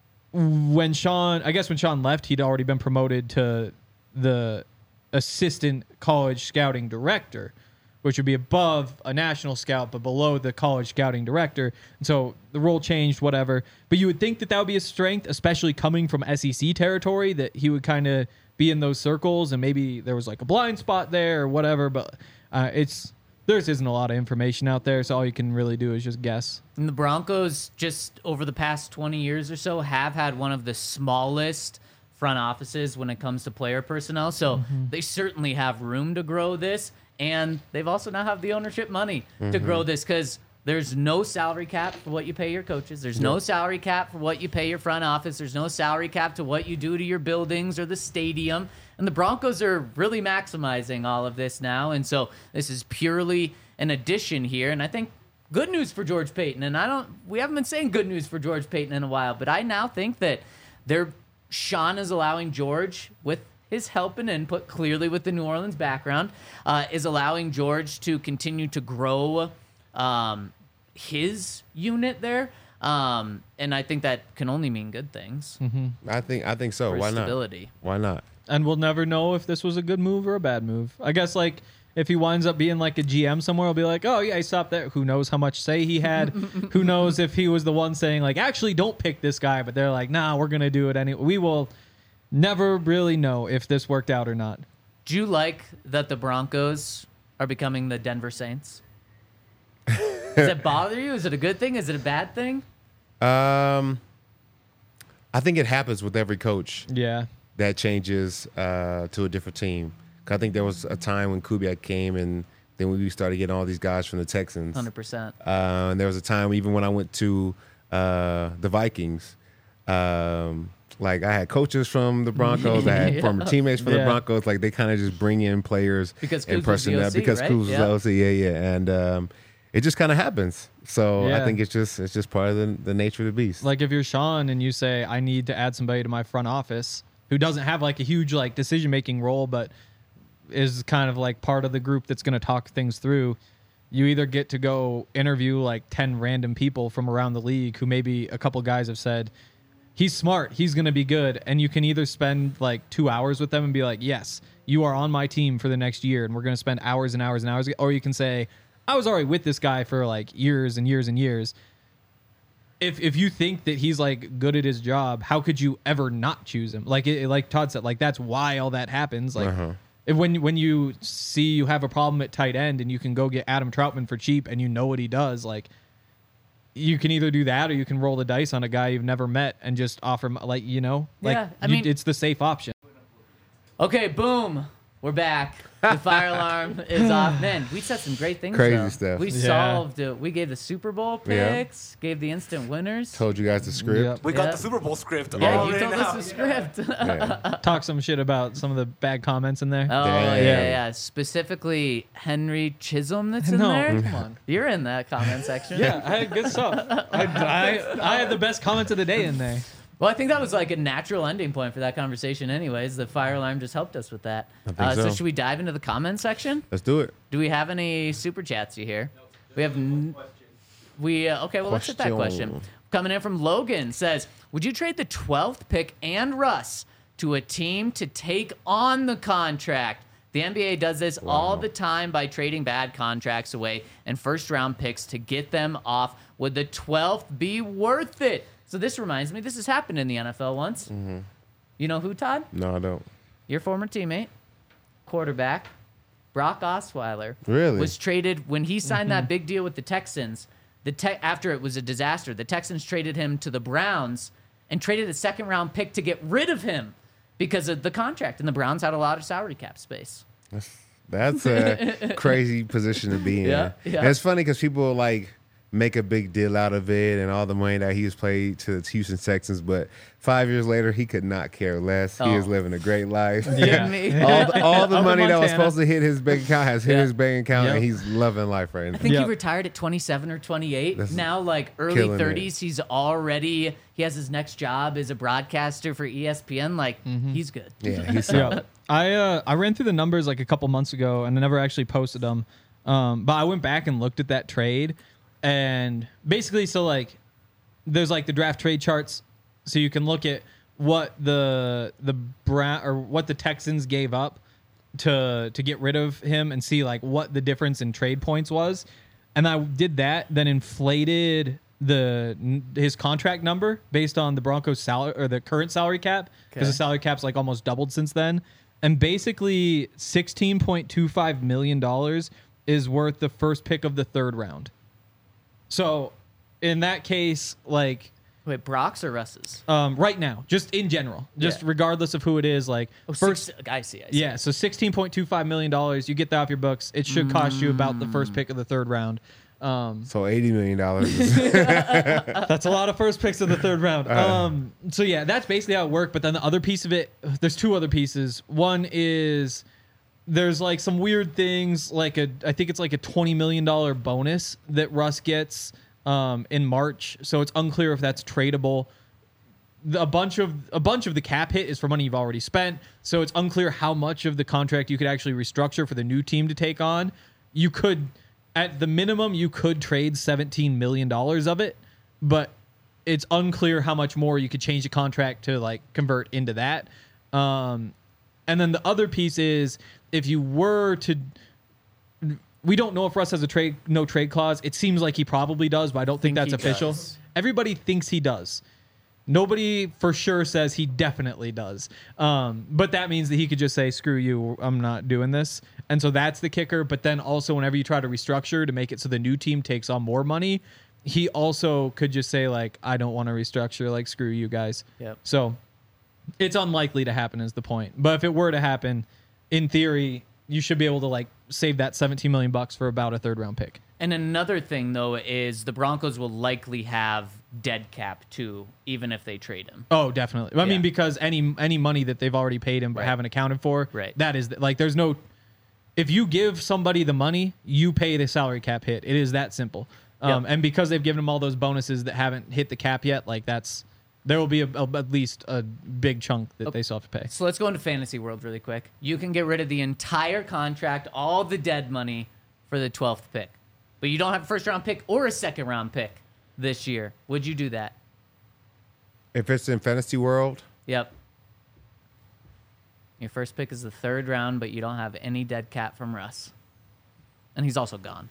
When Sean left, he'd already been promoted to the assistant college scouting director, which would be above a national scout, but below the college scouting director. And so the role changed, whatever. But you would think that would be a strength, especially coming from SEC territory, that he would kind of be in those circles, and maybe there was like a blind spot there or whatever. But there isn't a lot of information out there, so all you can really do is just guess. And the Broncos, just over the past 20 years or so, have had one of the smallest front offices when it comes to player personnel. So they certainly have room to grow this. And they've also now have the ownership money to grow this, because there's no salary cap for what you pay your coaches. There's no salary cap for what you pay your front office. There's no salary cap to what you do to your buildings or the stadium. And the Broncos are really maximizing all of this now. And so this is purely an addition here. And I think good news for George Paton. And we haven't been saying good news for George Paton in a while, but I now think that Sean is allowing George, with his help and input, clearly with the New Orleans background, is allowing George to continue to grow his unit there. And I think that can only mean good things. I think so. For Why stability. not? Why not? And we'll never know if this was a good move or a bad move. I guess, like, if he winds up being like a GM somewhere, he'll be like, oh, yeah, he stopped there. Who knows how much say he had? Who knows if he was the one saying, like, actually, don't pick this guy. But they're like, nah, we're going to do it anyway. We will never really know if this worked out or not. Do you like that the Broncos are becoming the Denver Saints? Does it bother you? Is it a good thing? Is it a bad thing? I think it happens with every coach Yeah. that changes to a different team. 'Cause I think there was a time when Kubiak came, and then we started getting all these guys from the Texans. 100%. And there was a time even when I went to the Vikings, like I had coaches from the Broncos, I had former teammates from the Broncos. Like they kind of just bring in players Because and Kuz was the OC, because right? Kuz was the OC, and it just kind of happens. So I think it's just part of the nature of the beast. Like if you're Sean and you say, I need to add somebody to my front office who doesn't have like a huge like decision-making role, but is kind of like part of the group that's going to talk things through, you either get to go interview like 10 random people from around the league who maybe a couple guys have said, he's smart, he's going to be good. And you can either spend like 2 hours with them and be like, yes, you are on my team for the next year and we're going to spend hours and hours and hours. Or you can say, I was already with this guy for like years and years and years. If you think that he's like good at his job, how could you ever not choose him? Like like Todd said, like that's why all that happens. Like when you see you have a problem at tight end and you can go get Adam Troutman for cheap and you know what he does, like you can either do that or you can roll the dice on a guy you've never met and just offer him, like, you know, like Yeah, I mean- it's the safe option. Okay, boom. We're back. The fire alarm is off. Man, we said some great things. Crazy though. stuff. We solved it. We gave the Super Bowl Yeah. picks, gave the instant winners. Told you guys the script. Yep. We got Yeah. the Super Bowl script. Yeah, all you right told now. us the script. Yeah. Talk some shit about some of the bad comments in there. Oh, Damn. yeah. Specifically, Henry Chisholm that's in No, there. come on. You're in that comment section. Yeah, I had good stuff. I had the best comments of the day in there. Well, I think that was like a natural ending point for that conversation anyways. The fire alarm just helped us with that. I think so. Should we dive into the comment section? Let's do it. Do we have any super chats you hear? We have Okay, well, let's hit that question. Coming in from Logan says, would you trade the 12th pick and Russ to a team to take on the contract? The NBA does this all the time by trading bad contracts away and first-round picks to get them off. Would the 12th be worth it? So this reminds me, this has happened in the NFL once. Mm-hmm. You know who, Todd? No, I don't. Your former teammate, quarterback, Brock Osweiler. Really? Was traded when he signed that big deal with the Texans. After it was a disaster, the Texans traded him to the Browns and traded a second-round pick to get rid of him because of the contract, and the Browns had a lot of salary cap space. That's a crazy position to be in. Yeah. And it's funny because people like make a big deal out of it and all the money that he was paid to the Houston Texans, but 5 years later, he could not care less. He is living a great life. Yeah. all the Up in money that was Montana. supposed to hit his bank account has hit his bank account, Yep. and he's loving life right now. I think he Yep. retired at 27 or 28. That's Now, like early killing it. 30s, he has his next job as a broadcaster for ESPN. Like, he's good. Yeah, he's Yeah, I ran through the numbers like a couple months ago, and I never actually posted them. But I went back and looked at that trade, and basically, so like, there's like the draft trade charts, so you can look at what the what the Texans gave up to get rid of him, and see like what the difference in trade points was. And I did that, then inflated his contract number based on the Broncos salary or the current salary cap, because the salary cap's like almost doubled since then. And basically $16.25 million is worth the first pick of the third round. So in that case, like Wait, Brock's or Russ's? right now, just in general, just regardless of who it is, like I see. yeah, so $16.25 million, you get that off your books. It should cost you about the first pick of the third round. So $80 million. That's a lot of first picks of the third round. So yeah, that's basically how it worked. But then the other piece of it, there's two other pieces. One is there's like some weird things, like I think it's like a $20 million bonus that Russ gets in March. So it's unclear if that's tradable. A bunch of the cap hit is for money you've already spent. So it's unclear how much of the contract you could actually restructure for the new team to take on. You could, at the minimum, you could trade $17 million of it, but it's unclear how much more you could change the contract to like convert into that. And then the other piece is if you were to, we don't know if Russ has a no trade clause. It seems like he probably does, but I don't think that's he official. does. Everybody thinks he does. Nobody for sure says he definitely does. But that means that he could just say, screw you, I'm not doing this. And so that's the kicker. But then also whenever you try to restructure to make it so the new team takes on more money, he also could just say like, I don't want to restructure, like screw you guys. Yep. So it's unlikely to happen is the point. But if it were to happen, in theory, you should be able to like save that $17 million for about a third round pick. And another thing, though, is the Broncos will likely have dead cap, too, even if they trade him. Oh, definitely. I Yeah. mean, because any money that they've already paid him but Right. haven't accounted for, Right. that is, like, there's no... If you give somebody the money, you pay the salary cap hit. It is that simple. Yep. And because they've given him all those bonuses that haven't hit the cap yet, like, that's... There will be at least a big chunk that they still have to pay. So let's go into fantasy world really quick. You can get rid of the entire contract, all the dead money, for the 12th pick. But you don't have a first-round pick or a second-round pick this year. Would you do that? If it's in fantasy world, Yep. Your first pick is the third round, but you don't have any dead cap from Russ. And he's also gone.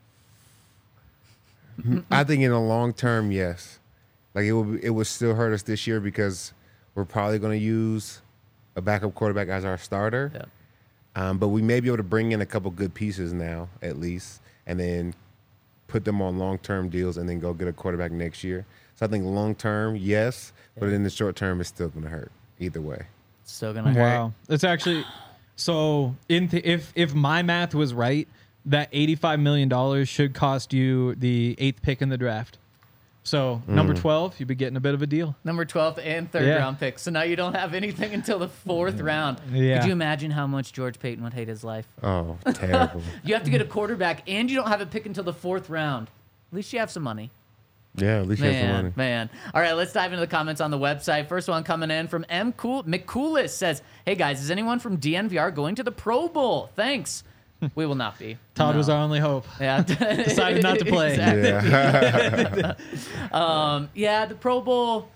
I think in the long term, yes. Like it would still hurt us this year because we're probably going to use a backup quarterback as our starter. Yeah. But we may be able to bring in a couple good pieces now, at least, and then put them on long-term deals and then go get a quarterback next year. So I think long-term, yes, but in the short term, it's still going to hurt either way. Still going to hurt. Wow. It's actually... So if my math was right, that $85 million should cost you the 8th pick in the draft. So number 12, you'd be getting a bit of a deal. Number 12th and third Yeah. round pick. So now you don't have anything until the fourth round. Yeah. Could you imagine how much George Payton would hate his life? Oh, terrible. You have to get a quarterback, and you don't have a pick until the fourth round. At least you have some money. Yeah, at least you have some money. Man. All right, let's dive into the comments on the website. First one coming in from McCoolist says, hey, guys, is anyone from DNVR going to the Pro Bowl? Thanks. We will not be. Todd No. was our only hope. Yeah. Decided not to play. Exactly. Yeah. Yeah, the Pro Bowl.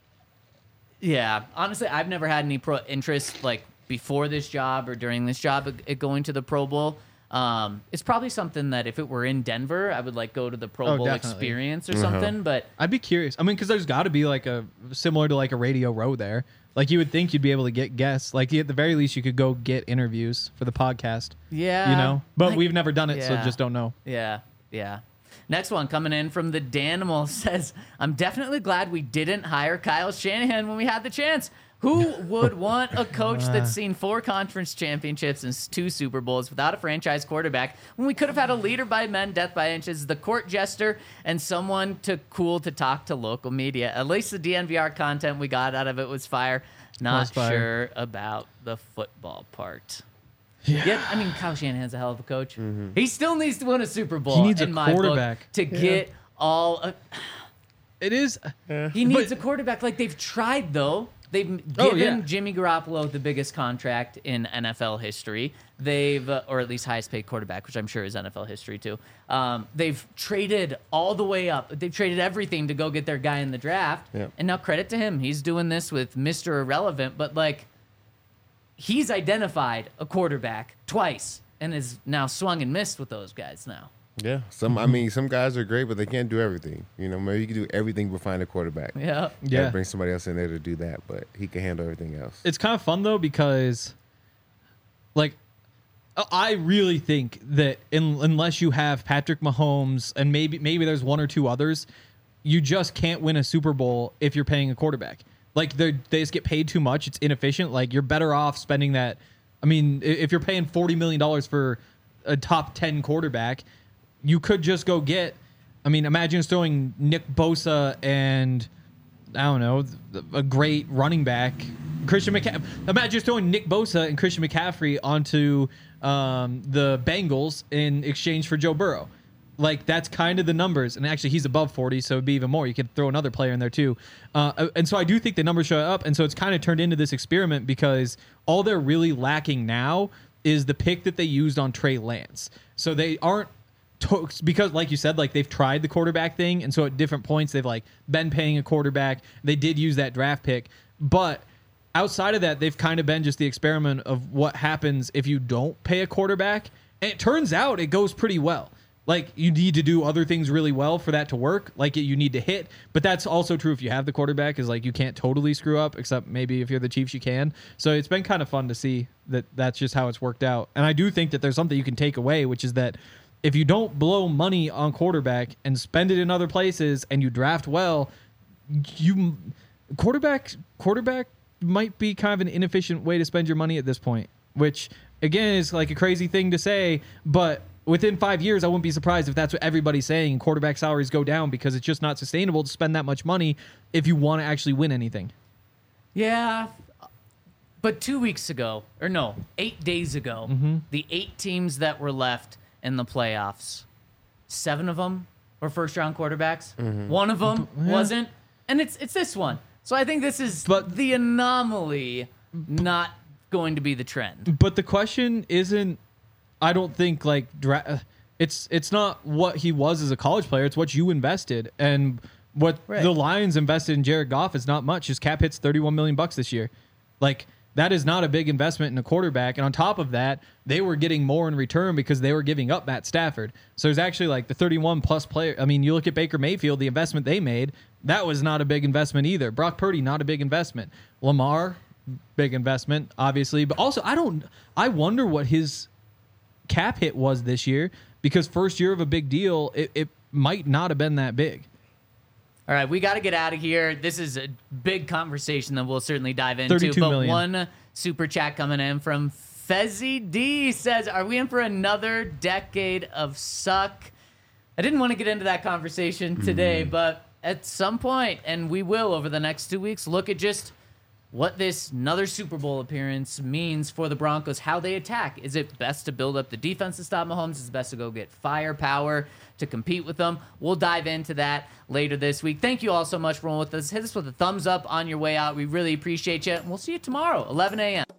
Yeah, honestly, I've never had any interest like before this job or during this job at going to the Pro Bowl. It's probably something that if it were in Denver, I would like go to the Pro Bowl definitely. experience or something. But I'd be curious. I mean, because there's got to be like a similar to like a Radio Row there. Like you would think you'd be able to get guests. Like at the very least, you could go get interviews for the podcast. yeah, You know, but like- we've never done it, so yeah. just don't know. Yeah, yeah. Next one coming in from the Danimal says, I'm definitely glad we didn't hire Kyle Shanahan when we had the chance. Who would want a coach that's seen 4 conference championships and 2 Super Bowls without a franchise quarterback when we could have had a leader by men, death by inches, the court jester, and someone cool to talk to local media? At least the DNVR content we got out of it was fire. Not Was fire. sure about the football part. Yeah, I mean, Kyle Shanahan's a hell of a coach. He still needs to win a Super Bowl. He needs a in my book, quarterback. to get all. It is. He needs a quarterback. Like they've tried though. They've given Oh, yeah. Jimmy Garoppolo the biggest contract in NFL history. They've, or at least highest paid quarterback, which I'm sure is NFL history too. They've traded all the way up. They've traded everything to go get their guy in the draft. Yep. And now credit to him. He's doing this with Mr. Irrelevant, but like he's identified a quarterback twice and is now swung and missed with those guys now. Yeah. I mean, some guys are great, but they can't do everything. You know, maybe you can do everything but find a quarterback. Yeah. Yeah. Yeah. Bring somebody else in there to do that, but he can handle everything else. It's kind of fun though because, like, I really think that unless you have Patrick Mahomes and maybe there's 1 or 2 others, you just can't win a Super Bowl if you're paying a quarterback. Like they just get paid too much. It's inefficient. Like you're better off spending that. I mean, if you're paying $40 million for a top 10 quarterback, you could just go get. I mean, imagine just throwing Nick Bosa and I don't know, a great running back, Christian McCaffrey. Imagine just throwing Nick Bosa and Christian McCaffrey onto the Bengals in exchange for Joe Burrow. Like, that's kind of the numbers. And actually, he's above 40, so it'd be even more. You could throw another player in there, too. And so I do think the numbers show up. And so it's kind of turned into this experiment because all they're really lacking now is the pick that they used on Trey Lance. So they aren't because like you said, like they've tried the quarterback thing, and so at different points they've like been paying a quarterback. They did use that draft pick, but outside of that, they've kind of been just the experiment of what happens if you don't pay a quarterback. And it turns out it goes pretty well. Like you need to do other things really well for that to work. Like you need to hit, but that's also true if you have the quarterback. Is like you can't totally screw up, except maybe if you're the Chiefs you can. So it's been kind of fun to see that that's just how it's worked out. And I do think that there's something you can take away, which is that if you don't blow money on quarterback and spend it in other places and you draft well, quarterback might be kind of an inefficient way to spend your money at this point, which again is like a crazy thing to say, but within 5 years, I wouldn't be surprised if that's what everybody's saying. Quarterback salaries go down because it's just not sustainable to spend that much money if you want to actually win anything. Yeah. But 2 weeks ago, or no, 8 days ago, the 8 teams that were left in the playoffs, 7 of them were first-round quarterbacks. One of them wasn't, and it's this one. So I think this is the anomaly, not going to be the trend. But the question isn't, I don't think like it's not what he was as a college player. It's what you invested, and what the Lions invested in Jared Goff is not much. His cap hits $31 million this year. Like that is not a big investment in a quarterback. And on top of that, they were getting more in return because they were giving up Matt Stafford. So there's actually like the 31 plus player. I mean, you look at Baker Mayfield, the investment they made, that was not a big investment either. Brock Purdy, not a big investment. Lamar, big investment, obviously. But also, I wonder what his cap hit was this year, because first year of a big deal, it might not have been that big. All right, we got to get out of here. This is a big conversation that we'll certainly dive into. 32 but million. One super chat coming in from Fezzy D says, are we in for another decade of suck? I didn't want to get into that conversation today, but at some point, and we will over the next 2 weeks, look at just what this another Super Bowl appearance means for the Broncos, how they attack. Is it best to build up the defense to stop Mahomes? Is it best to go get firepower to compete with them? We'll dive into that later this week. Thank you all so much for rolling with us. Hit us with a thumbs up on your way out. We really appreciate you. And we'll see you tomorrow, 11 a.m.